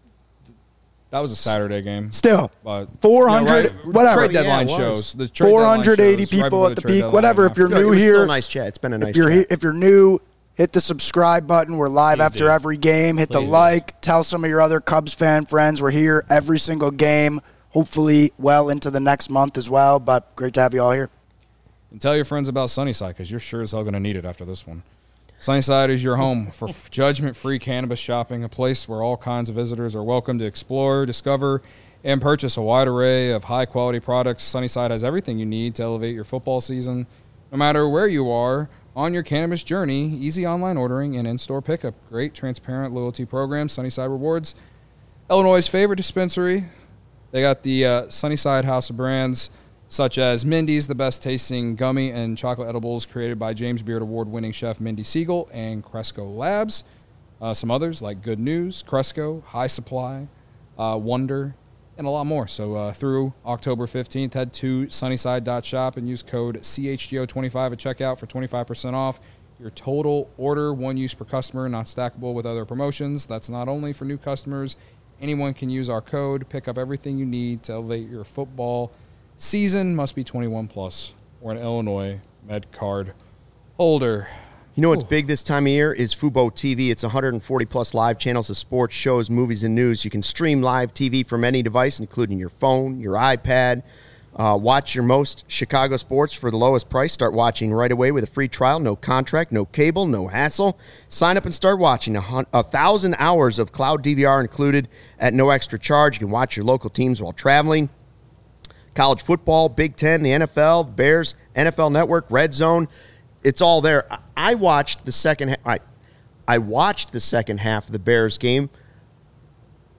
Speaker 3: That was a Saturday game,
Speaker 4: still
Speaker 3: but
Speaker 4: four hundred,
Speaker 3: you know, right,
Speaker 4: whatever.
Speaker 3: Trade deadline
Speaker 1: Yeah, it was.
Speaker 3: shows. The trade
Speaker 4: four
Speaker 3: deadline
Speaker 4: hundred eighty
Speaker 3: shows right
Speaker 4: people
Speaker 3: before
Speaker 4: at the
Speaker 3: trade
Speaker 4: peak.
Speaker 3: deadline
Speaker 4: Whatever. If you're
Speaker 1: Good. It
Speaker 4: new
Speaker 1: was
Speaker 4: here,
Speaker 1: still a nice chat. It's been a nice
Speaker 4: if you're
Speaker 1: chat.
Speaker 4: he- if you're new, hit the subscribe button. We're live
Speaker 2: Please
Speaker 4: after
Speaker 2: do.
Speaker 4: every game. Hit the
Speaker 2: Please do.
Speaker 4: like. Tell some of your other Cubs fan friends we're here every single game. Hopefully, well into the next month as well. But great to have you all here.
Speaker 3: And tell your friends about Sunnyside because you're sure as hell going to need it after this one. Sunnyside is your home for f- judgment-free cannabis shopping, a place where all kinds of visitors are welcome to explore, discover, and purchase a wide array of high-quality products. Sunnyside has everything you need to elevate your football season. No matter where you are on your cannabis journey, easy online ordering and in-store pickup. Great, transparent loyalty program. Sunnyside Rewards, Illinois' favorite dispensary. They got the uh, Sunnyside House of Brands, such as Mindy's, the best tasting gummy and chocolate edibles created by James Beard Award-winning chef Mindy Siegel and Cresco Labs. Uh, some others like Good News, Cresco, High Supply, uh, Wonder, and a lot more. So uh, through October fifteenth, head to sunnyside dot shop and use code C H G O twenty-five at checkout for twenty-five percent off your total order, one use per customer, not stackable with other promotions. That's not only for new customers. Anyone can use our code. Pick up everything you need to elevate your football season. Must be twenty-one plus or an Illinois Med Card holder.
Speaker 1: You know what's big this time of year is Fubo T V. It's one hundred forty plus live channels of sports, shows, movies, and news. You can stream live T V from any device, including your phone, your iPad. Uh, watch your most Chicago sports for the lowest price. Start watching right away with a free trial. No contract, no cable, no hassle. Sign up and start watching. A, hun- a thousand hours of cloud D V R included at no extra charge. You can watch your local teams while traveling. College football, Big Ten, the N F L, Bears, N F L Network, Red Zone. It's all there. I- I watched the second. Ha- I, I watched the second half of the Bears game.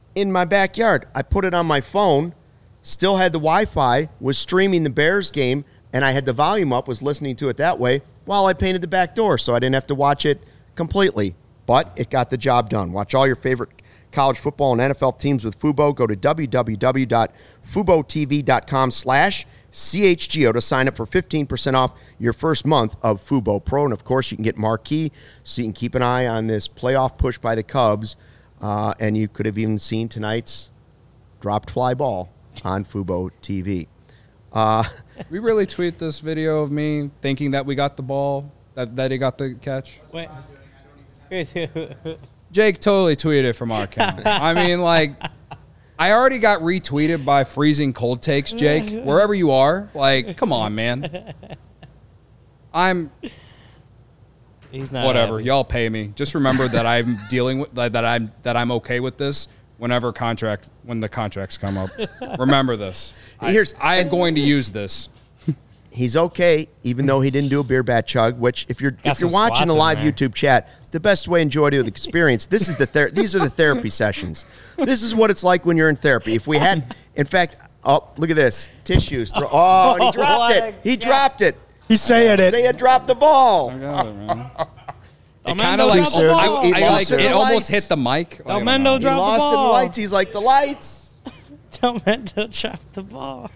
Speaker 1: in my backyard. I put it on my phone, still had the Wi-Fi, was streaming the Bears game, and I had the volume up, was listening to it that way while I painted the back door, so I didn't have to watch it completely. But it got the job done. Watch all your favorite college football and N F L teams with Fubo. Go to www.fubotv.com slash CHGO to sign up for fifteen percent off your first month of Fubo Pro. And, of course, you can get Marquee, so you can keep an eye on this playoff push by the Cubs. Uh, and you could have even seen tonight's dropped fly ball on Fubo T V. Uh,
Speaker 3: We really tweet this video of me thinking that we got the ball, that, that he got the catch.
Speaker 2: Wait.
Speaker 3: Jake totally tweeted it from our account. I mean, like, I already got retweeted by Freezing Cold Takes, Jake. Wherever you are, like, come on, man. I'm
Speaker 2: He's not
Speaker 3: whatever.
Speaker 2: happy.
Speaker 3: Y'all pay me. Just remember that I'm dealing with that that I'm that I'm okay with this. Whenever contract when the contracts come up, remember this.
Speaker 1: Here's-
Speaker 3: I, I am going to use this.
Speaker 1: He's okay, even though he didn't do a beer bat chug. Which, if you're
Speaker 2: Got
Speaker 1: if you're
Speaker 2: some
Speaker 1: watching the
Speaker 2: squats in
Speaker 1: live
Speaker 2: there.
Speaker 1: YouTube chat, the best way to enjoy the experience. This is the ther- these are the therapy sessions. This is what it's like when you're in therapy. If we had, in fact, oh look at this tissues. Throw- Oh, and he dropped
Speaker 2: What
Speaker 1: it.
Speaker 2: a
Speaker 1: He
Speaker 2: guy.
Speaker 1: dropped it.
Speaker 4: He's saying it.
Speaker 1: Say it dropped the ball.
Speaker 3: I got it, man. It
Speaker 2: Delmendo
Speaker 3: kind of like
Speaker 2: dropped the
Speaker 3: I,
Speaker 2: ball.
Speaker 3: I,
Speaker 1: He
Speaker 3: like
Speaker 1: lost in
Speaker 3: it
Speaker 1: the
Speaker 3: almost
Speaker 1: lights.
Speaker 3: hit the mic. Like, I don't
Speaker 2: Delmendo
Speaker 3: know.
Speaker 1: He
Speaker 2: dropped the
Speaker 1: lost in the
Speaker 2: ball.
Speaker 1: lights. He's like the lights.
Speaker 2: Delmendo dropped the ball.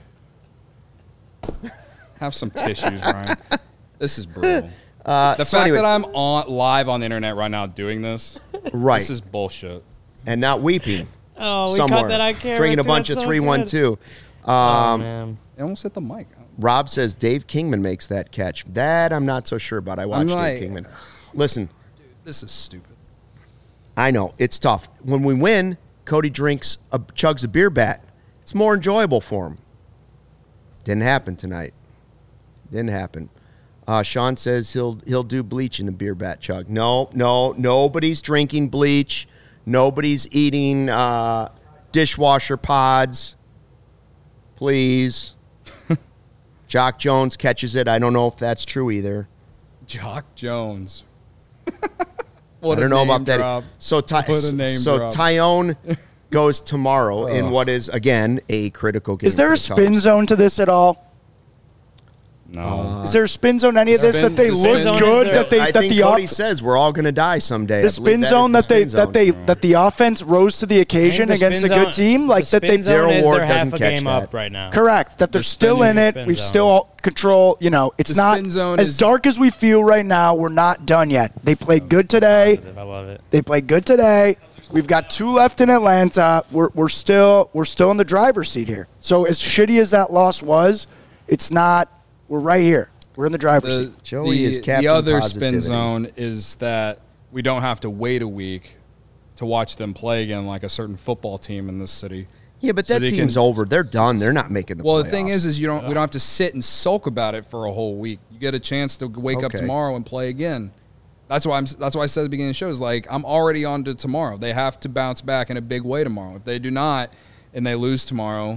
Speaker 3: Have some tissues, Ryan. This is brutal.
Speaker 1: Uh,
Speaker 3: The
Speaker 1: so
Speaker 3: fact
Speaker 1: anyway,
Speaker 3: that I'm on live on the internet right now doing this,
Speaker 1: right,
Speaker 3: this is bullshit.
Speaker 1: and not weeping.
Speaker 2: Oh, we
Speaker 1: somewhere,
Speaker 2: caught that on camera.
Speaker 1: drinking a
Speaker 2: too.
Speaker 1: bunch
Speaker 2: That's
Speaker 1: of
Speaker 2: so
Speaker 1: three one
Speaker 2: good.
Speaker 1: two.
Speaker 2: Oh,
Speaker 1: Um,
Speaker 2: man.
Speaker 3: It almost hit the mic.
Speaker 1: Rob says Dave Kingman makes that catch. That I'm not so sure about. I watched
Speaker 3: like-
Speaker 1: Dave Kingman. Listen,
Speaker 3: This is stupid.
Speaker 1: I know it's tough. When we win, Cody drinks a chugs a beer bat. It's more enjoyable for him. Didn't happen tonight. Didn't happen. Uh, Sean says he'll he'll do bleach in the beer bat chug. No, no, nobody's drinking bleach. Nobody's eating uh, dishwasher pods. Please. Jock Jones catches it. I don't know if that's true either.
Speaker 3: Jock Jones.
Speaker 1: I
Speaker 3: What a
Speaker 1: don't know
Speaker 3: name
Speaker 1: about that.
Speaker 3: drop.
Speaker 1: So, Ty-
Speaker 3: What a name
Speaker 1: so
Speaker 3: drop.
Speaker 1: Tyone goes tomorrow in what is again a critical game.
Speaker 4: Is there
Speaker 1: for
Speaker 4: a
Speaker 1: the
Speaker 4: spin
Speaker 1: Cubs.
Speaker 4: zone to this at all?
Speaker 3: No.
Speaker 4: Is there a spin zone any of this
Speaker 3: Spin-
Speaker 4: that they
Speaker 3: the spin
Speaker 4: looked
Speaker 2: zone is
Speaker 4: good?
Speaker 2: there.
Speaker 4: That they
Speaker 1: I
Speaker 4: that
Speaker 1: think
Speaker 4: the
Speaker 1: Cody
Speaker 4: off-
Speaker 1: says we're all going to die someday. I
Speaker 4: the
Speaker 1: believe
Speaker 4: spin
Speaker 1: that is
Speaker 4: zone
Speaker 1: the
Speaker 4: that they
Speaker 1: spin
Speaker 4: that
Speaker 1: zone.
Speaker 4: they that the offense rose to the
Speaker 2: I
Speaker 4: occasion
Speaker 2: think the
Speaker 4: against a
Speaker 2: spin
Speaker 4: good
Speaker 2: zone-
Speaker 4: team, like
Speaker 2: the
Speaker 4: that they
Speaker 2: spin zone
Speaker 1: Daryl
Speaker 2: is
Speaker 1: Ward
Speaker 2: they're half
Speaker 1: doesn't
Speaker 2: a
Speaker 1: catch
Speaker 2: game
Speaker 1: that.
Speaker 2: up right now.
Speaker 4: correct that they're
Speaker 3: The
Speaker 4: still
Speaker 3: spin-
Speaker 4: in it.
Speaker 2: spin
Speaker 4: We
Speaker 2: zone.
Speaker 4: still control. You know, it's
Speaker 3: The
Speaker 4: not
Speaker 3: spin zone
Speaker 4: as
Speaker 3: is-
Speaker 4: dark as we feel right now. We're not done yet. They played good today.
Speaker 2: Positive. I love it.
Speaker 4: They played good today. We've got two left in Atlanta. We're, we're still we're still in the driver's seat here. So as shitty as that loss was, it's not. We're right here. We're in the driver's
Speaker 3: The,
Speaker 4: seat.
Speaker 1: Joey
Speaker 3: the,
Speaker 1: is Captain
Speaker 3: the other
Speaker 1: Positivity.
Speaker 3: spin zone is that we don't have to wait a week to watch them play again like a certain football team in this city.
Speaker 1: Yeah, but
Speaker 3: So
Speaker 1: that
Speaker 3: they
Speaker 1: team's
Speaker 3: can-
Speaker 1: over. They're done. They're not making the
Speaker 3: Well,
Speaker 1: playoffs.
Speaker 3: the thing is, is you don't we don't have to sit and sulk about it for a whole week. You get a chance to wake up
Speaker 1: Okay.
Speaker 3: tomorrow and play again. That's why I'm. That's why I said at the beginning of the show is like I'm already on to tomorrow. They have to bounce back in a big way tomorrow. If they do not, and they lose tomorrow,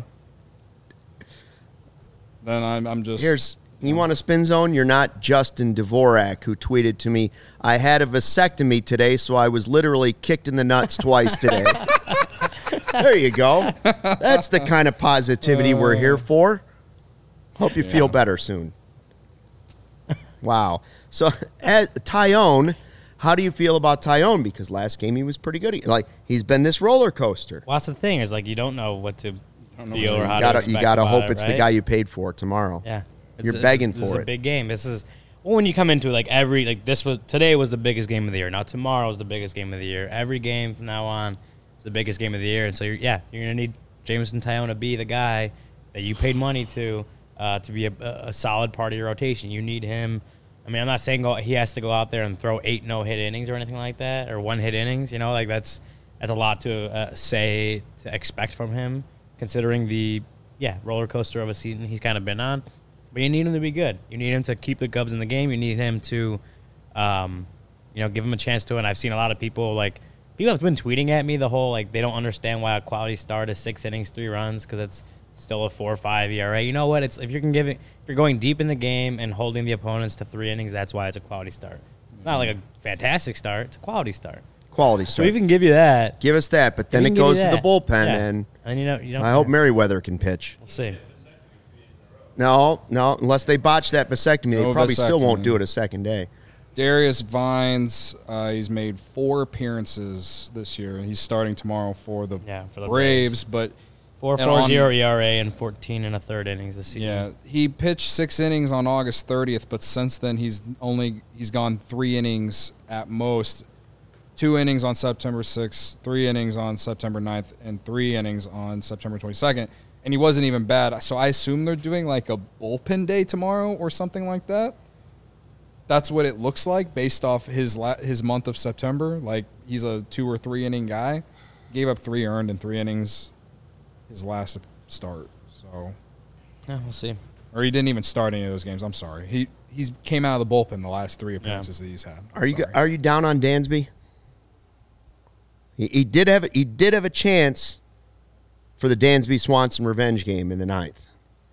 Speaker 3: then I'm. I'm just.
Speaker 1: Here's you want a spin zone? You're not Justin Dvorak, who tweeted to me, "I had a vasectomy today, so I was literally kicked in the nuts twice today." There you go. That's the kind of positivity we're here for. Hope you feel better soon. Wow. So, at Tyone, how do you feel about Tyone? Because last game he was pretty good. He- Like he's been this roller coaster.
Speaker 2: Well, that's the thing is like you don't know what to
Speaker 3: know
Speaker 2: feel
Speaker 3: what
Speaker 2: or
Speaker 3: to-
Speaker 2: how
Speaker 1: You
Speaker 2: to
Speaker 1: gotta,
Speaker 2: expect
Speaker 1: you gotta
Speaker 2: about
Speaker 1: hope
Speaker 2: it,
Speaker 1: it's the
Speaker 2: right?
Speaker 1: guy you paid for tomorrow.
Speaker 2: Yeah,
Speaker 1: You're
Speaker 2: It's-
Speaker 1: begging
Speaker 2: this, this
Speaker 1: for
Speaker 2: is
Speaker 1: it.
Speaker 2: a big game. This is well, when you come into it, like every like this was today was the biggest game of the year. Now tomorrow is the biggest game of the year. Every game from now on is the biggest game of the year. And so you're, yeah, you're gonna need Jameson Tyone to be the guy that you paid money to uh, to be a, a solid part of your rotation. You need him. I mean, I'm not saying go, he has to go out there and throw eight no hit innings or anything like that, or one hit innings. You know, like that's that's a lot to uh, say to expect from him, considering the yeah roller coaster of a season he's kind of been on. But you need him to be good. You need him to keep the Cubs in the game. You need him to, um, you know, give him a chance to. And I've seen a lot of people like people have been tweeting at me the whole like they don't understand why a quality start is six innings, three runs because it's still a four or five E R A. You know what? It's if you're give it, if you're going deep in the game and holding the opponents to three innings, that's why it's a quality start. It's not like a fantastic start. It's a quality start.
Speaker 1: quality
Speaker 2: So
Speaker 1: start.
Speaker 2: we can give you that.
Speaker 1: Give us that, but then
Speaker 2: We
Speaker 1: it
Speaker 2: can give
Speaker 1: goes
Speaker 2: you
Speaker 1: to the
Speaker 2: that.
Speaker 1: bullpen,
Speaker 2: Yeah.
Speaker 1: and
Speaker 2: And you know, you don't
Speaker 1: I hope
Speaker 2: care.
Speaker 1: Merriweather can pitch.
Speaker 2: We'll see.
Speaker 1: No, no, unless they botch that vasectomy, they
Speaker 5: No
Speaker 1: probably still won't
Speaker 5: vasectomy.
Speaker 1: do it a second day.
Speaker 5: Darius Vines, uh, he's made four appearances this year. He's starting tomorrow for the,
Speaker 2: Yeah, for the
Speaker 5: Braves, but
Speaker 2: Four
Speaker 5: and
Speaker 2: four
Speaker 5: on-
Speaker 2: zero E R A and fourteen and a third innings this season.
Speaker 5: yeah, he pitched six innings on August thirtieth, but since then he's only he's gone three innings at most. Two innings on September sixth, three innings on September ninth, and three innings on September twenty-second. And he wasn't even bad. So I assume they're doing like a bullpen day tomorrow or something like that. That's what it looks like based off his la- his month of September. Like he's a two or three inning guy. Gave up three earned in three innings his last start. So,
Speaker 2: Yeah, we'll see.
Speaker 5: or he didn't even start any of those games. I'm sorry. He he's came out of the bullpen the last three appearances that he's had. I'm
Speaker 1: Are you
Speaker 5: sorry.
Speaker 1: are you down on Dansby? He, he did have he did have a chance for the Dansby Swanson revenge game in the ninth.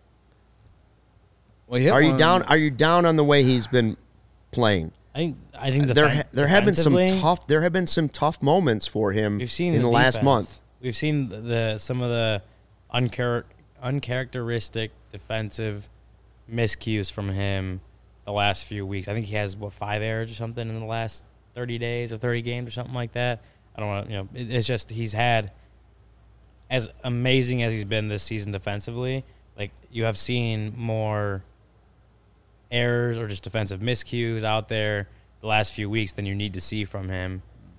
Speaker 5: Well, he hit
Speaker 1: Are you
Speaker 5: one-
Speaker 1: down? Are you down on the way he's been playing?
Speaker 2: I think I think the
Speaker 1: There
Speaker 2: defen-
Speaker 1: ha- there have been some
Speaker 2: defensively,
Speaker 1: tough there have been some tough moments for him
Speaker 2: We've seen
Speaker 1: in the, last
Speaker 2: defense.
Speaker 1: month.
Speaker 2: We've seen the, the some of the unchar- uncharacteristic defensive miscues from him the last few weeks. I think he has what five errors or something in the last thirty days or thirty games or something like that. I don't want to, you know, it, it's just he's had as amazing as he's been this season defensively. Like you have seen more errors or just defensive miscues out there the last few weeks than you need to see from him.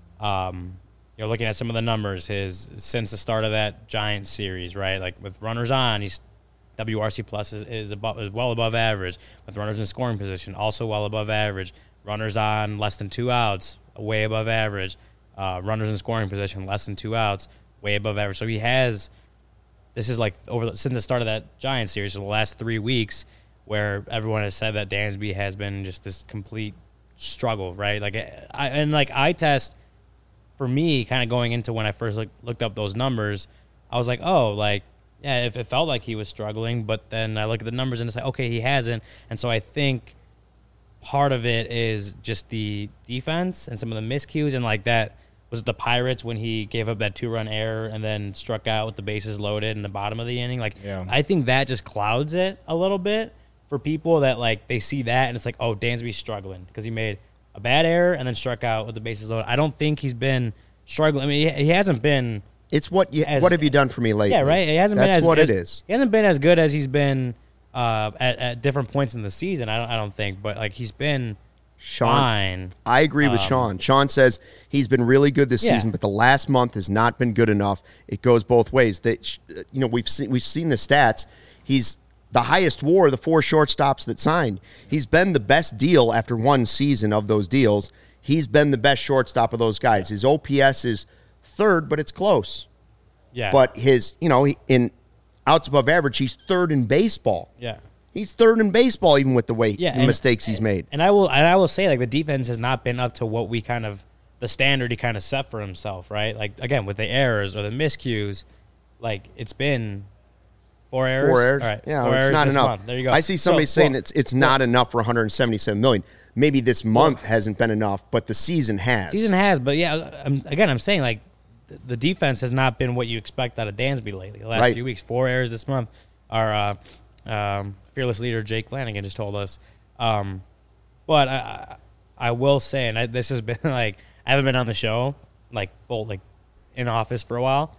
Speaker 2: Um, you're looking at some of the numbers his since the start of that Giants series, right? Like with runners on, he's W R C plus is, is above is well above average. With runners in scoring position, also well above average. Runners on less than two outs, way above average. Uh, runners in scoring position, less than two outs, way above average. So he has. This is like over the, since the start of that Giants series, so the last three weeks, where everyone has said that Dansby has been just this complete struggle, right? Like, I and like eye test for me, kind of going into when I first look, looked up those numbers, I was like, oh, like yeah, if it felt like he was struggling, but then I look at the numbers and it's like, okay, he hasn't, and so I think part of it is just the defense and some of the miscues and like that. Was it the Pirates when he gave up that two-run error and then struck out with the bases loaded in the bottom of the inning? Like,
Speaker 5: Yeah.
Speaker 2: I think that just clouds it a little bit for people that, like, they see that and it's like, oh, Dansby's struggling because he made a bad error and then struck out with the bases loaded. I don't think he's been struggling. I mean, he, he hasn't been
Speaker 1: It's what you
Speaker 2: As-
Speaker 1: what have you done for me lately?
Speaker 2: – yeah, right? He hasn't
Speaker 1: That's
Speaker 2: been as
Speaker 1: what
Speaker 2: as,
Speaker 1: it is.
Speaker 2: He hasn't been as good as he's been uh, at, at different points in the season, I don't, I don't think. But, like, he's been
Speaker 1: Sean,
Speaker 2: fine.
Speaker 1: I agree with
Speaker 2: Um,
Speaker 1: Sean. Sean says he's been really good this
Speaker 2: Yeah.
Speaker 1: season, but the last month has not been good enough. It goes both ways. That you know we've seen we've seen the stats. He's the highest W A R of the four shortstops that signed. He's been the best deal after one season of those deals. He's been the best shortstop of those guys. His O P S is third, but it's close.
Speaker 2: Yeah.
Speaker 1: But his you know he, in outs above average, he's third in baseball.
Speaker 2: Yeah.
Speaker 1: He's third in baseball, even with the way
Speaker 2: Yeah,
Speaker 1: the
Speaker 2: and-
Speaker 1: mistakes he's made.
Speaker 2: And I will and I will say, like, the defense has not been up to what we kind of the standard he kind of set for himself, right? Like, again, with the errors or the miscues, like, it's been four errors.
Speaker 1: Four errors.
Speaker 2: All right,
Speaker 1: Yeah,
Speaker 2: four
Speaker 1: it's
Speaker 2: errors
Speaker 1: not
Speaker 2: this
Speaker 1: enough.
Speaker 2: month. There you go.
Speaker 1: I see somebody
Speaker 2: So,
Speaker 1: saying
Speaker 2: well,
Speaker 1: it's it's not enough for one hundred seventy-seven million. Maybe this month hasn't been enough, but the season has.
Speaker 2: season has, but yeah, I'm, again, I'm saying, like, th- the defense has not been what you expect out of Dansby lately. The last
Speaker 1: Right.
Speaker 2: few weeks, four errors this month. Our uh, um, fearless leader Jake Flanagan just told us. Um, but I, I I will say, and I, this has been like I haven't been on the show like full like in office for a while.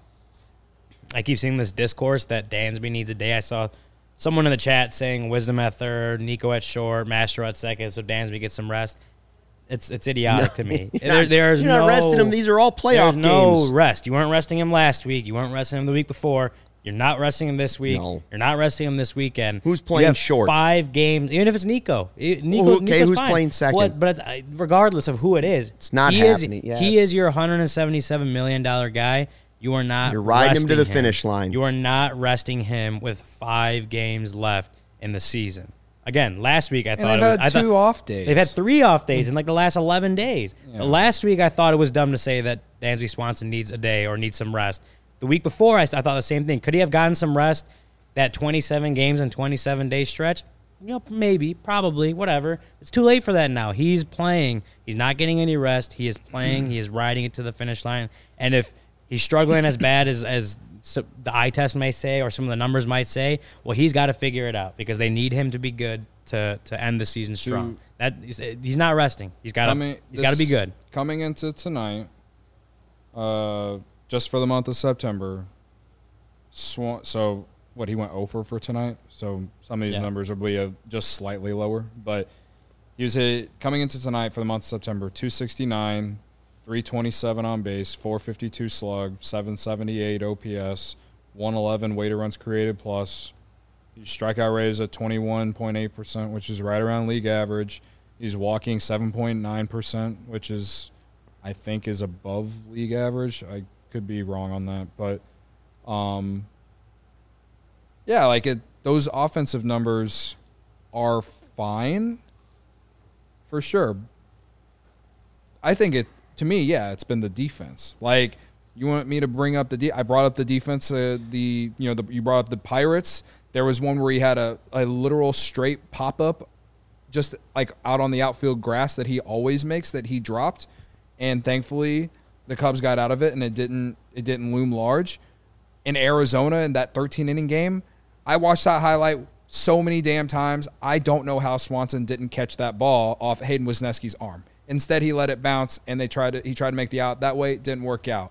Speaker 2: I keep seeing this discourse that Dansby needs a day. I saw someone in the chat saying Wisdom at third, Nico at short, Mastro at second, so Dansby gets some rest. It's it's idiotic to me.
Speaker 1: You're
Speaker 2: There-
Speaker 1: not,
Speaker 2: there's
Speaker 1: you're not
Speaker 2: no,
Speaker 1: resting him. These are all playoff
Speaker 2: there's no
Speaker 1: games.
Speaker 2: rest. You weren't resting him last week. You weren't resting him the week before. You're not resting him this week.
Speaker 1: No.
Speaker 2: You're not resting him this weekend.
Speaker 1: Who's
Speaker 2: You
Speaker 1: playing
Speaker 2: have
Speaker 1: short?
Speaker 2: Five games, even if it's Nico. I- Nico
Speaker 1: Well, okay,
Speaker 2: Nico's
Speaker 1: who's
Speaker 2: fine.
Speaker 1: playing second?
Speaker 2: But, but it's, I- regardless of who it is,
Speaker 1: It's not
Speaker 2: he
Speaker 1: happening,
Speaker 2: Is,
Speaker 1: yes.
Speaker 2: He is your one hundred seventy-seven million dollars guy. You are not.
Speaker 1: You're riding him to
Speaker 2: resting
Speaker 1: the finish line.
Speaker 2: You are not resting him with five games left in the season. Again, last week I
Speaker 3: And
Speaker 2: thought
Speaker 3: they've
Speaker 2: it was.
Speaker 3: had
Speaker 2: I thought-
Speaker 3: two off days.
Speaker 2: They've had three off days in like the last eleven days.
Speaker 3: Yeah.
Speaker 2: Last week, I thought it was dumb to say that Dansby Swanson needs a day or needs some rest. The week before, I, I thought the same thing. Could he have gotten some rest that twenty-seven games and twenty-seven day stretch? You know, maybe, probably, whatever. It's too late for that now. He's playing. He's not getting any rest. He is playing. He is riding it to the finish line. And if he's struggling as bad as, as the eye test may say or some of the numbers might say, well, he's got to figure it out because they need him to be good to, to end the season strong. That he's, he's not resting. He's got to he's got to be good.
Speaker 5: Coming into tonight, uh, just for the month of September, Swan, so... What, he went over for tonight, so some of these
Speaker 2: yeah.
Speaker 5: numbers will be a, just slightly lower. But he was hit, coming into tonight for the month of September, two sixty-nine, three twenty-seven on base, four fifty-two slug, seven seventy-eight O P S, one eleven weighted runs created plus. His strikeout rate is at twenty-one point eight percent, which is right around league average. He's walking seven point nine percent, which is, I think, is above league average. I could be wrong on that, but um. Yeah, like it, those offensive numbers are fine for sure. I think it, to me, yeah, it's been the defense. Like, you want me to bring up the de- I brought up the defense, uh, the you know, the, you brought up the Pirates. There was one where he had a, a literal straight pop-up just like out on the outfield grass that he always makes that he dropped, and thankfully the Cubs got out of it and it didn't it didn't loom large. In Arizona in that thirteen-inning game, I watched that highlight so many damn times. I don't know how Swanson didn't catch that ball off Hayden Wisniewski's arm. Instead, he let it bounce, and they tried to. He tried to make the out that way. It didn't work out.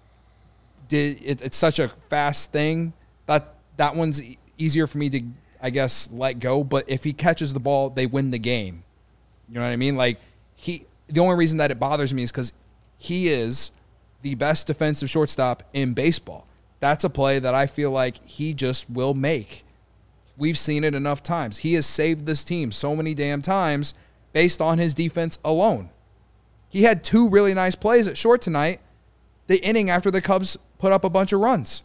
Speaker 5: Did it, it's such a fast thing that that one's e- easier for me to, I guess, let go. But if he catches the ball, they win the game. You know what I mean? Like he. The only reason that it bothers me is because he is the best defensive shortstop in baseball. That's a play that I feel like he just will make. We've seen it enough times. He has saved this team so many damn times based on his defense alone. He had two really nice plays at short tonight, the inning after the Cubs put up a bunch of runs.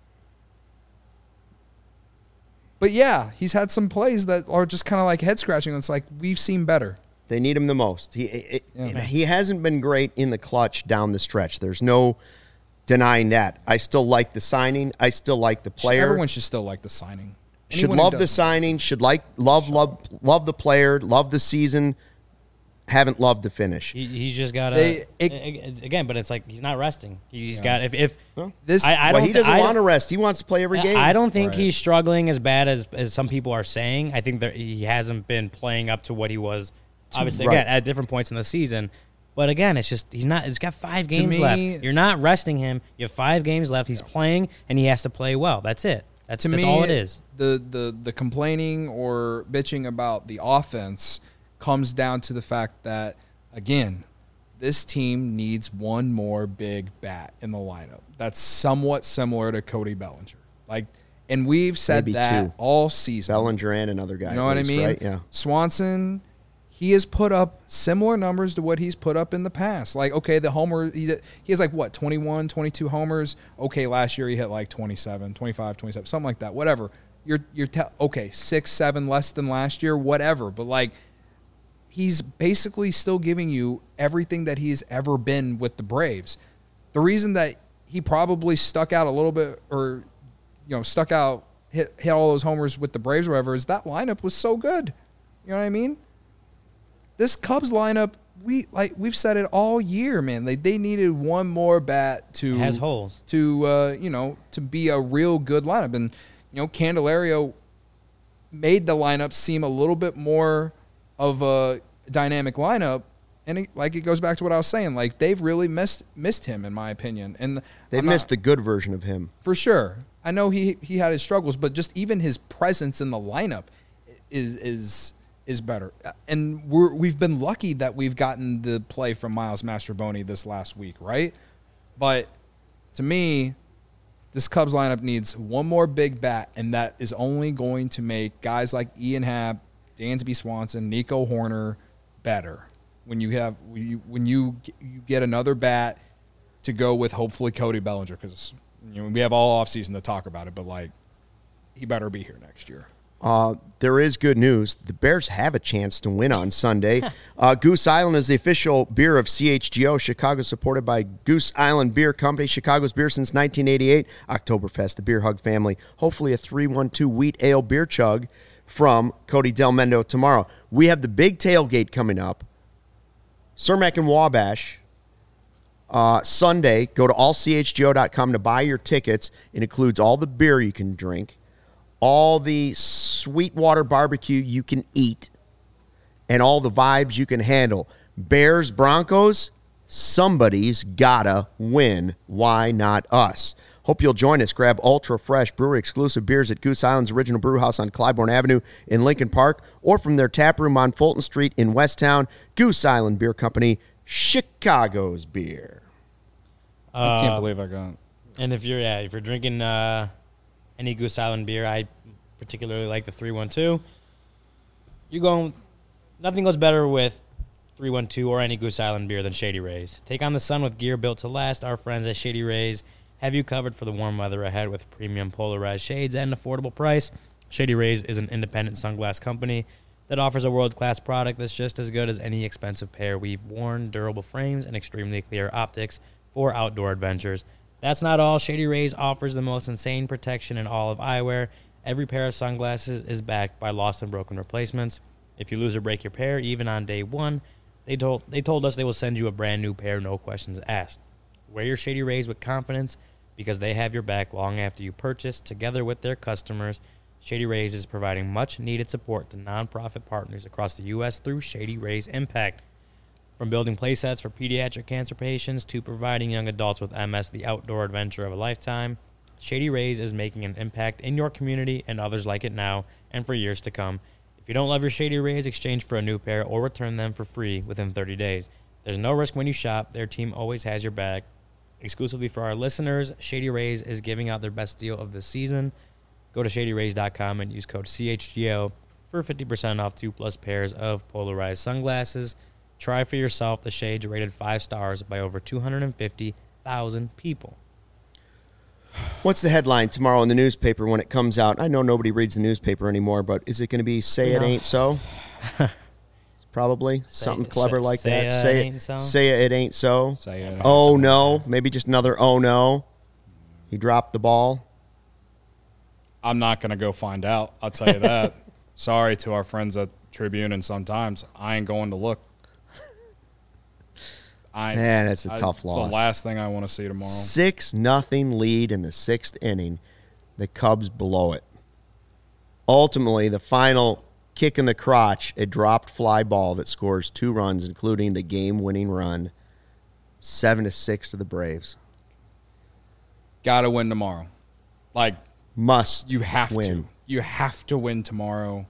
Speaker 5: But yeah, he's had some plays that are just kind of like head-scratching. It's like, we've seen better.
Speaker 1: They need him the most. He it,
Speaker 3: Yeah.
Speaker 1: he hasn't been great in the clutch down the stretch. There's no denying that. I still like the signing. I still like the player.
Speaker 5: Everyone should still like the signing.
Speaker 1: Should
Speaker 5: Anyone who
Speaker 1: love the
Speaker 5: doesn't.
Speaker 1: signing. Should like love love love the player. Love the season. Haven't loved the finish.
Speaker 2: He, he's just got
Speaker 3: They-
Speaker 2: to
Speaker 3: it-
Speaker 2: again, but it's like he's not resting. He's got if if
Speaker 3: This
Speaker 2: I, I
Speaker 1: well,
Speaker 2: don't
Speaker 1: he doesn't
Speaker 2: I
Speaker 1: want to
Speaker 2: don't-
Speaker 1: rest. He wants to play every game.
Speaker 2: I don't think
Speaker 5: Right.
Speaker 2: he's struggling as bad as, as some people are saying. I think that he hasn't been playing up to what he was, obviously,
Speaker 1: Right.
Speaker 2: again, at different points in the season. But again, it's just he's not. He's got five games
Speaker 3: me-
Speaker 2: left. You're not resting him. You have five games left. He's playing, and he has to play well. That's it. That's,
Speaker 3: to
Speaker 2: that's
Speaker 3: me,
Speaker 2: all it is.
Speaker 3: The, the the complaining or bitching about the offense comes down to the fact that, again, this team needs one more big bat in the lineup. That's somewhat similar to Cody Bellinger. Like, and we've said
Speaker 1: Maybe
Speaker 3: that
Speaker 1: two.
Speaker 3: all season.
Speaker 1: Bellinger and another guy.
Speaker 3: You know
Speaker 1: at
Speaker 3: what
Speaker 1: least,
Speaker 3: I mean?
Speaker 1: Right? Yeah.
Speaker 3: Swanson, he has put up similar numbers to what he's put up in the past. Like, okay, the homer, he, he has like, what, twenty-one, twenty-two homers? Okay, last year he hit like twenty-seven, twenty-five, twenty-seven, something like that, whatever. You're, you're te- okay, six, seven less than last year, whatever. But, like, he's basically still giving you everything that he's ever been with the Braves. The reason that he probably stuck out a little bit or, you know, stuck out, hit, hit all those homers with the Braves or whatever is that lineup was so good. You know what I mean? This Cubs lineup, we like we've said it all year, man. They they needed one more bat to
Speaker 2: It has holes.
Speaker 3: to uh, you know to be a real good lineup, and you know Candelario made the lineup seem a little bit more of a dynamic lineup. And it, like it goes back to what I was saying, like they've really missed missed him in my opinion, and
Speaker 1: They
Speaker 3: I'm not-
Speaker 1: missed the good version of him.
Speaker 3: for sure. I know he he had his struggles, but just even his presence in the lineup is is is better. And we're we've been lucky that we've gotten the play from Miles Mastroboni this last week, right? But to me, this Cubs lineup needs one more big bat, and that is only going to make guys like Ian Happ, Dansby Swanson, Nico Horner better. When you have when you when you you get another bat to go with, hopefully Cody Bellinger, because you know we have all offseason to talk about it, but like he better be here next year.
Speaker 1: Uh, there is good news. The Bears have a chance to win on Sunday. uh, Goose Island is the official beer of C H G O. Chicago, supported by Goose Island Beer Company. Chicago's beer since nineteen eighty-eight. Oktoberfest, the Beer Hug family. Hopefully a three one two wheat ale beer chug from Cody Del Mendo tomorrow. We have the big tailgate coming up. Cermak and Wabash. Uh, Sunday, go to all c h g o dot com to buy your tickets. It includes all the beer you can drink, all the Sweetwater barbecue you can eat, and all the vibes you can handle. Bears, Broncos, somebody's gotta win. Why not us? Hope you'll join us. Grab ultra fresh brewery exclusive beers at Goose Island's original brew house on Clybourne Avenue in Lincoln Park, or from their tap room on Fulton Street in Westtown. Goose Island Beer Company, Chicago's beer.
Speaker 5: I can't
Speaker 2: Uh,
Speaker 5: believe I got.
Speaker 2: And if you're yeah, if you're drinking uh, any Goose Island beer, I particularly like the three one two. You going nothing goes better with three one two or any Goose Island beer than Shady Rays. Take on the sun with gear built to last. Our friends at Shady Rays have you covered for the warm weather ahead with premium polarized shades at an affordable price. Shady Rays is an independent sunglass company that offers a world-class product that's just as good as any expensive pair we've worn, durable frames, and extremely clear optics for outdoor adventures. That's not all. Shady Rays offers the most insane protection in all of eyewear. Every pair of sunglasses is backed by lost and broken replacements. If you lose or break your pair, even on day one, they told they told us they will send you a brand new pair, no questions asked. Wear your Shady Rays with confidence because they have your back long after you purchase. Together with their customers, Shady Rays is providing much-needed support to nonprofit partners across the U S through Shady Rays Impact. From building playsets for pediatric cancer patients to providing young adults with M S the outdoor adventure of a lifetime, Shady Rays is making an impact in your community and others like it now and for years to come. If you don't love your Shady Rays, exchange for a new pair or return them for free within thirty days. There's no risk when you shop. Their team always has your back. Exclusively for our listeners, Shady Rays is giving out their best deal of the season. Go to shady rays dot com and use code C H G O for fifty percent off two plus pairs of polarized sunglasses. Try for yourself the shades rated five stars by over two hundred fifty thousand people.
Speaker 1: What's the headline tomorrow in the newspaper when it comes out? I know nobody reads the newspaper anymore, but is it going to be "Say It
Speaker 2: No.
Speaker 1: Ain't So"? Probably something
Speaker 2: Say-
Speaker 1: clever
Speaker 2: say-
Speaker 1: like
Speaker 2: say
Speaker 1: that.
Speaker 2: it
Speaker 1: say
Speaker 2: ain't so?
Speaker 1: Say it ain't so.
Speaker 5: Say it.
Speaker 1: Oh no! Maybe just another oh no. He dropped the ball.
Speaker 5: I'm not going to go find out. I'll tell you that. Sorry to our friends at Tribune and Sun-Times. I ain't going to look. I,
Speaker 1: Man, it's a
Speaker 5: I-
Speaker 1: tough
Speaker 5: it's
Speaker 1: loss.
Speaker 5: the last thing I want to see tomorrow.
Speaker 1: Six nothing lead in the sixth inning. The Cubs blow it. Ultimately, the final kick in the crotch, a dropped fly ball that scores two runs, including the game-winning run. Seven to six to the Braves.
Speaker 5: Got to win tomorrow. Like,
Speaker 1: Must
Speaker 5: you have
Speaker 1: win.
Speaker 5: to. You have to win tomorrow.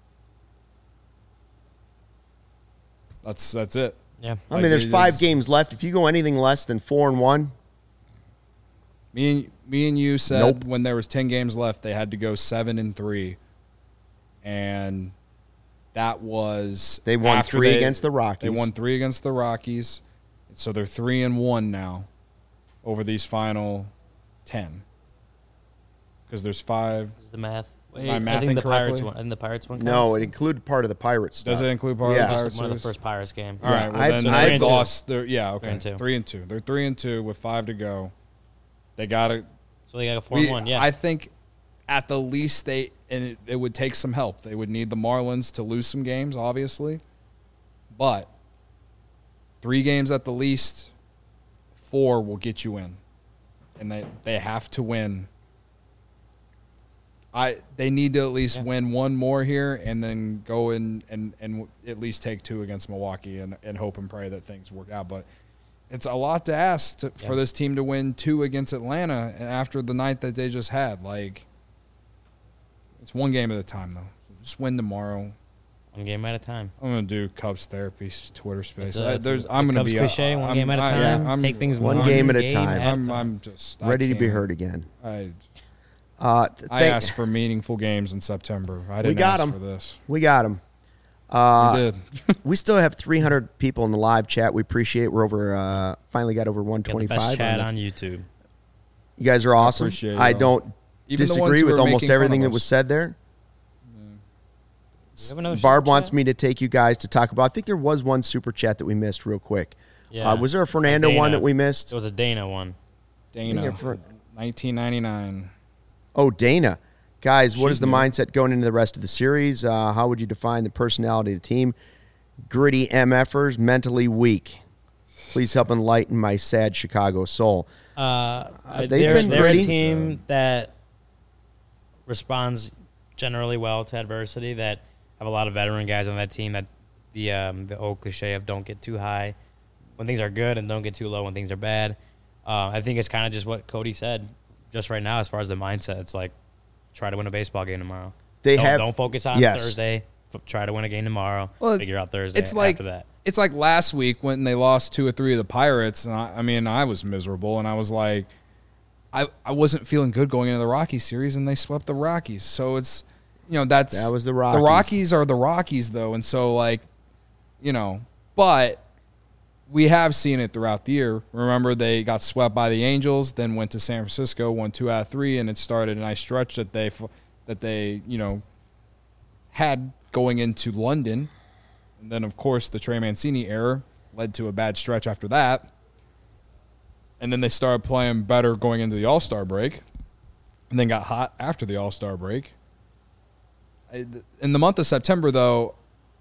Speaker 5: That's that's it.
Speaker 2: Yeah.
Speaker 1: I
Speaker 5: Like,
Speaker 1: mean, there's
Speaker 5: it
Speaker 1: five
Speaker 5: is-
Speaker 1: games left. If you go anything less than four and one,
Speaker 5: Me and me and you said
Speaker 1: Nope.
Speaker 5: when there was ten games left, they had to go seven and three, and that was
Speaker 1: They won
Speaker 5: after
Speaker 1: three
Speaker 5: they-
Speaker 1: against the Rockies.
Speaker 5: They won three against the Rockies, so they're three and one now over these final ten. Because there's five.
Speaker 2: Is the math?
Speaker 5: Am I
Speaker 2: I
Speaker 5: mathing
Speaker 2: think the Pirates
Speaker 5: correctly?
Speaker 2: one. And the Pirates one.
Speaker 1: no,
Speaker 2: counts?
Speaker 1: it included part of the Pirates stuff.
Speaker 5: Does it include part
Speaker 1: Yeah.
Speaker 5: of the
Speaker 2: Just
Speaker 5: Pirates?
Speaker 2: one of the
Speaker 5: series?
Speaker 2: first Pirates game.
Speaker 5: All right, well
Speaker 1: I've-
Speaker 5: then
Speaker 1: I've-
Speaker 5: they
Speaker 2: Three and
Speaker 5: lost. Their, yeah, okay,
Speaker 2: Three and two.
Speaker 5: three and two. They're three and two with five to go. They got to.
Speaker 2: So they got a four
Speaker 5: We,
Speaker 2: and one. Yeah.
Speaker 5: I think at the least they and it, it would take some help. They would need the Marlins to lose some games, obviously, but three games at the least, four will get you in, and they they have to win. I they need to at least
Speaker 2: Yeah.
Speaker 5: win one more here, and then go in and and at least take two against Milwaukee, and and hope and pray that things work out, but. It's a lot to ask to, for
Speaker 2: Yeah.
Speaker 5: this team to win two against Atlanta and after the night that they just had. Like, it's one game at a time, though. Just win tomorrow.
Speaker 2: one game at a time.
Speaker 5: I'm gonna do Cubs therapy Twitter space.
Speaker 2: It's a-
Speaker 5: I,
Speaker 2: it's
Speaker 5: there's,
Speaker 2: a-
Speaker 5: I'm
Speaker 2: the
Speaker 5: gonna
Speaker 2: Cubs
Speaker 5: be
Speaker 2: cliche, one
Speaker 5: I'm-
Speaker 2: game at a
Speaker 5: I-
Speaker 2: time.
Speaker 5: I'm-
Speaker 2: Take things
Speaker 1: one
Speaker 2: one
Speaker 1: game at a time.
Speaker 2: at
Speaker 5: I'm,
Speaker 2: time.
Speaker 5: I'm just I
Speaker 1: Ready to be
Speaker 5: can't-
Speaker 1: heard again.
Speaker 5: I
Speaker 1: Uh, th-
Speaker 5: I
Speaker 1: thank-
Speaker 5: asked for meaningful games in September. I didn't
Speaker 1: got
Speaker 5: ask
Speaker 1: 'em.
Speaker 5: for this.
Speaker 1: We got him.
Speaker 5: You
Speaker 1: Uh,
Speaker 5: did.
Speaker 1: we still have three hundred people in the live chat. We appreciate it. We're over, uh, finally got over
Speaker 2: Got the best
Speaker 1: one twenty-five.
Speaker 2: chat
Speaker 1: the-
Speaker 2: on YouTube.
Speaker 1: You guys are awesome.
Speaker 5: appreciate it,
Speaker 1: I
Speaker 5: y'all.
Speaker 1: don't
Speaker 5: Even the ones
Speaker 1: disagree
Speaker 5: who
Speaker 1: with
Speaker 5: are
Speaker 1: almost
Speaker 5: making fun
Speaker 1: everything
Speaker 5: of
Speaker 1: that
Speaker 5: us.
Speaker 1: was said there.
Speaker 2: We have another
Speaker 1: Barb
Speaker 2: super
Speaker 1: wants
Speaker 2: chat?
Speaker 1: me to take you guys to talk about. I think there was one super chat that we missed real quick.
Speaker 2: Yeah.
Speaker 1: Uh, was there a Fernando
Speaker 2: Dana.
Speaker 1: one that we missed?
Speaker 2: It was a Dana one.
Speaker 5: Dana,
Speaker 1: Yeah, for-
Speaker 5: nineteen ninety-nine.
Speaker 1: Oh, Dana. Guys, what
Speaker 5: She's
Speaker 1: is the
Speaker 5: new.
Speaker 1: mindset going into the rest of the series? Uh, how would you define the personality of the team? Gritty MFers, mentally weak. Please help enlighten my sad Chicago soul.
Speaker 2: Uh,
Speaker 1: they've
Speaker 2: they're,
Speaker 1: been
Speaker 2: they're
Speaker 1: pretty-
Speaker 2: a team that responds generally well to adversity, that have a lot of veteran guys on that team, that the um, the old cliche of don't get too high when things are good and don't get too low when things are bad. Uh, I think it's kind of just what Cody said just right now as far as the mindset. It's like, try to win a baseball game tomorrow.
Speaker 1: They
Speaker 2: don't,
Speaker 1: have-
Speaker 2: don't focus on
Speaker 1: yes.
Speaker 2: Thursday. F- try to win a game tomorrow.
Speaker 3: Well,
Speaker 2: figure out Thursday
Speaker 3: It's like
Speaker 2: after that.
Speaker 3: it's like last week when they lost two or three of the Pirates, and I, I mean I was miserable, and I was like, I I wasn't feeling good going into the Rockies series, and they swept the Rockies. So it's, you know, that's
Speaker 1: That was the
Speaker 3: The
Speaker 1: Rockies.
Speaker 3: Rockies are the Rockies though, and so like, you know, but we have seen it throughout the year. Remember, they got swept by the Angels, then went to San Francisco, won two out of three, and it started a nice stretch that they that they you know had going into London. And then, of course, the Trey Mancini error led to a bad stretch after that. And then they started playing better going into the All-Star break, and then got hot after the All-Star break. In the month of September, though,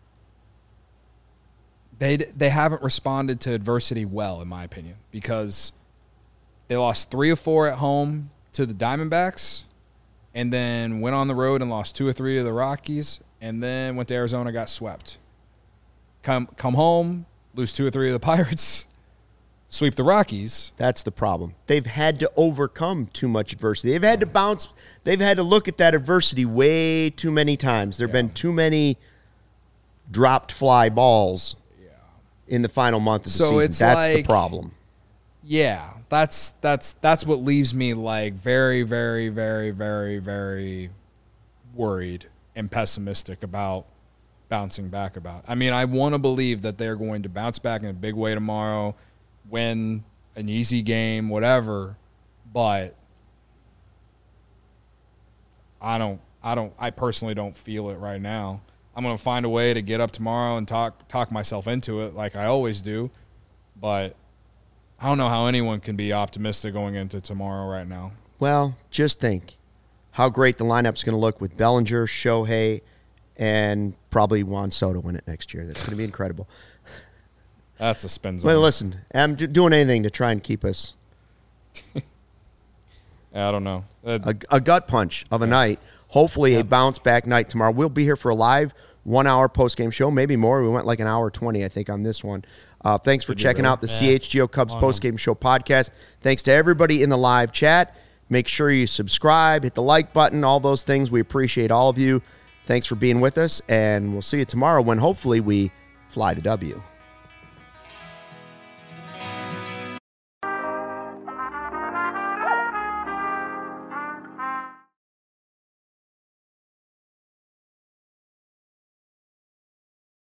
Speaker 3: they they haven't responded to adversity well, in my opinion, because they lost three or four at home to the Diamondbacks, and then went on the road and lost two or three to the Rockies, and then went to Arizona, got swept. Come come home, lose two or three of the Pirates, sweep the Rockies.
Speaker 1: That's the problem. They've had to overcome too much adversity. They've had to bounce. They've had to look at that adversity way too many times. There have been too many dropped fly balls in the final month of the
Speaker 3: So
Speaker 1: season.
Speaker 3: it's
Speaker 1: That's the
Speaker 3: like-
Speaker 1: problem.
Speaker 3: Yeah, that's that's that's what leaves me like very, very, very, very, very worried and pessimistic about bouncing back about. I mean, I want to believe that they're going to bounce back in a big way tomorrow, win an easy game, whatever, but I don't I don't I personally don't feel it right now. I'm going to find a way to get up tomorrow and talk talk myself into it like I always do, but I don't know how anyone can be optimistic going into tomorrow right now.
Speaker 1: Well, just think how great the lineup's going to look with Bellinger, Shohei, and probably Juan Soto in it next year. That's going to be incredible.
Speaker 3: That's a spin zone.
Speaker 1: Well, listen, I'm d- doing anything to try and keep us
Speaker 3: I don't know. Uh,
Speaker 1: a, a gut punch of a night. Hopefully a bounce back night tomorrow. We'll be here for a live one hour post game show, maybe more. We went like an hour twenty, I think, on this one. Uh, thanks for checking out the
Speaker 2: Yeah.
Speaker 1: C H G O Cubs post game show podcast. Thanks to everybody in the live chat. Make sure you subscribe, hit the like button, all those things. We appreciate all of you. Thanks for being with us, and we'll see you tomorrow when hopefully we fly the W.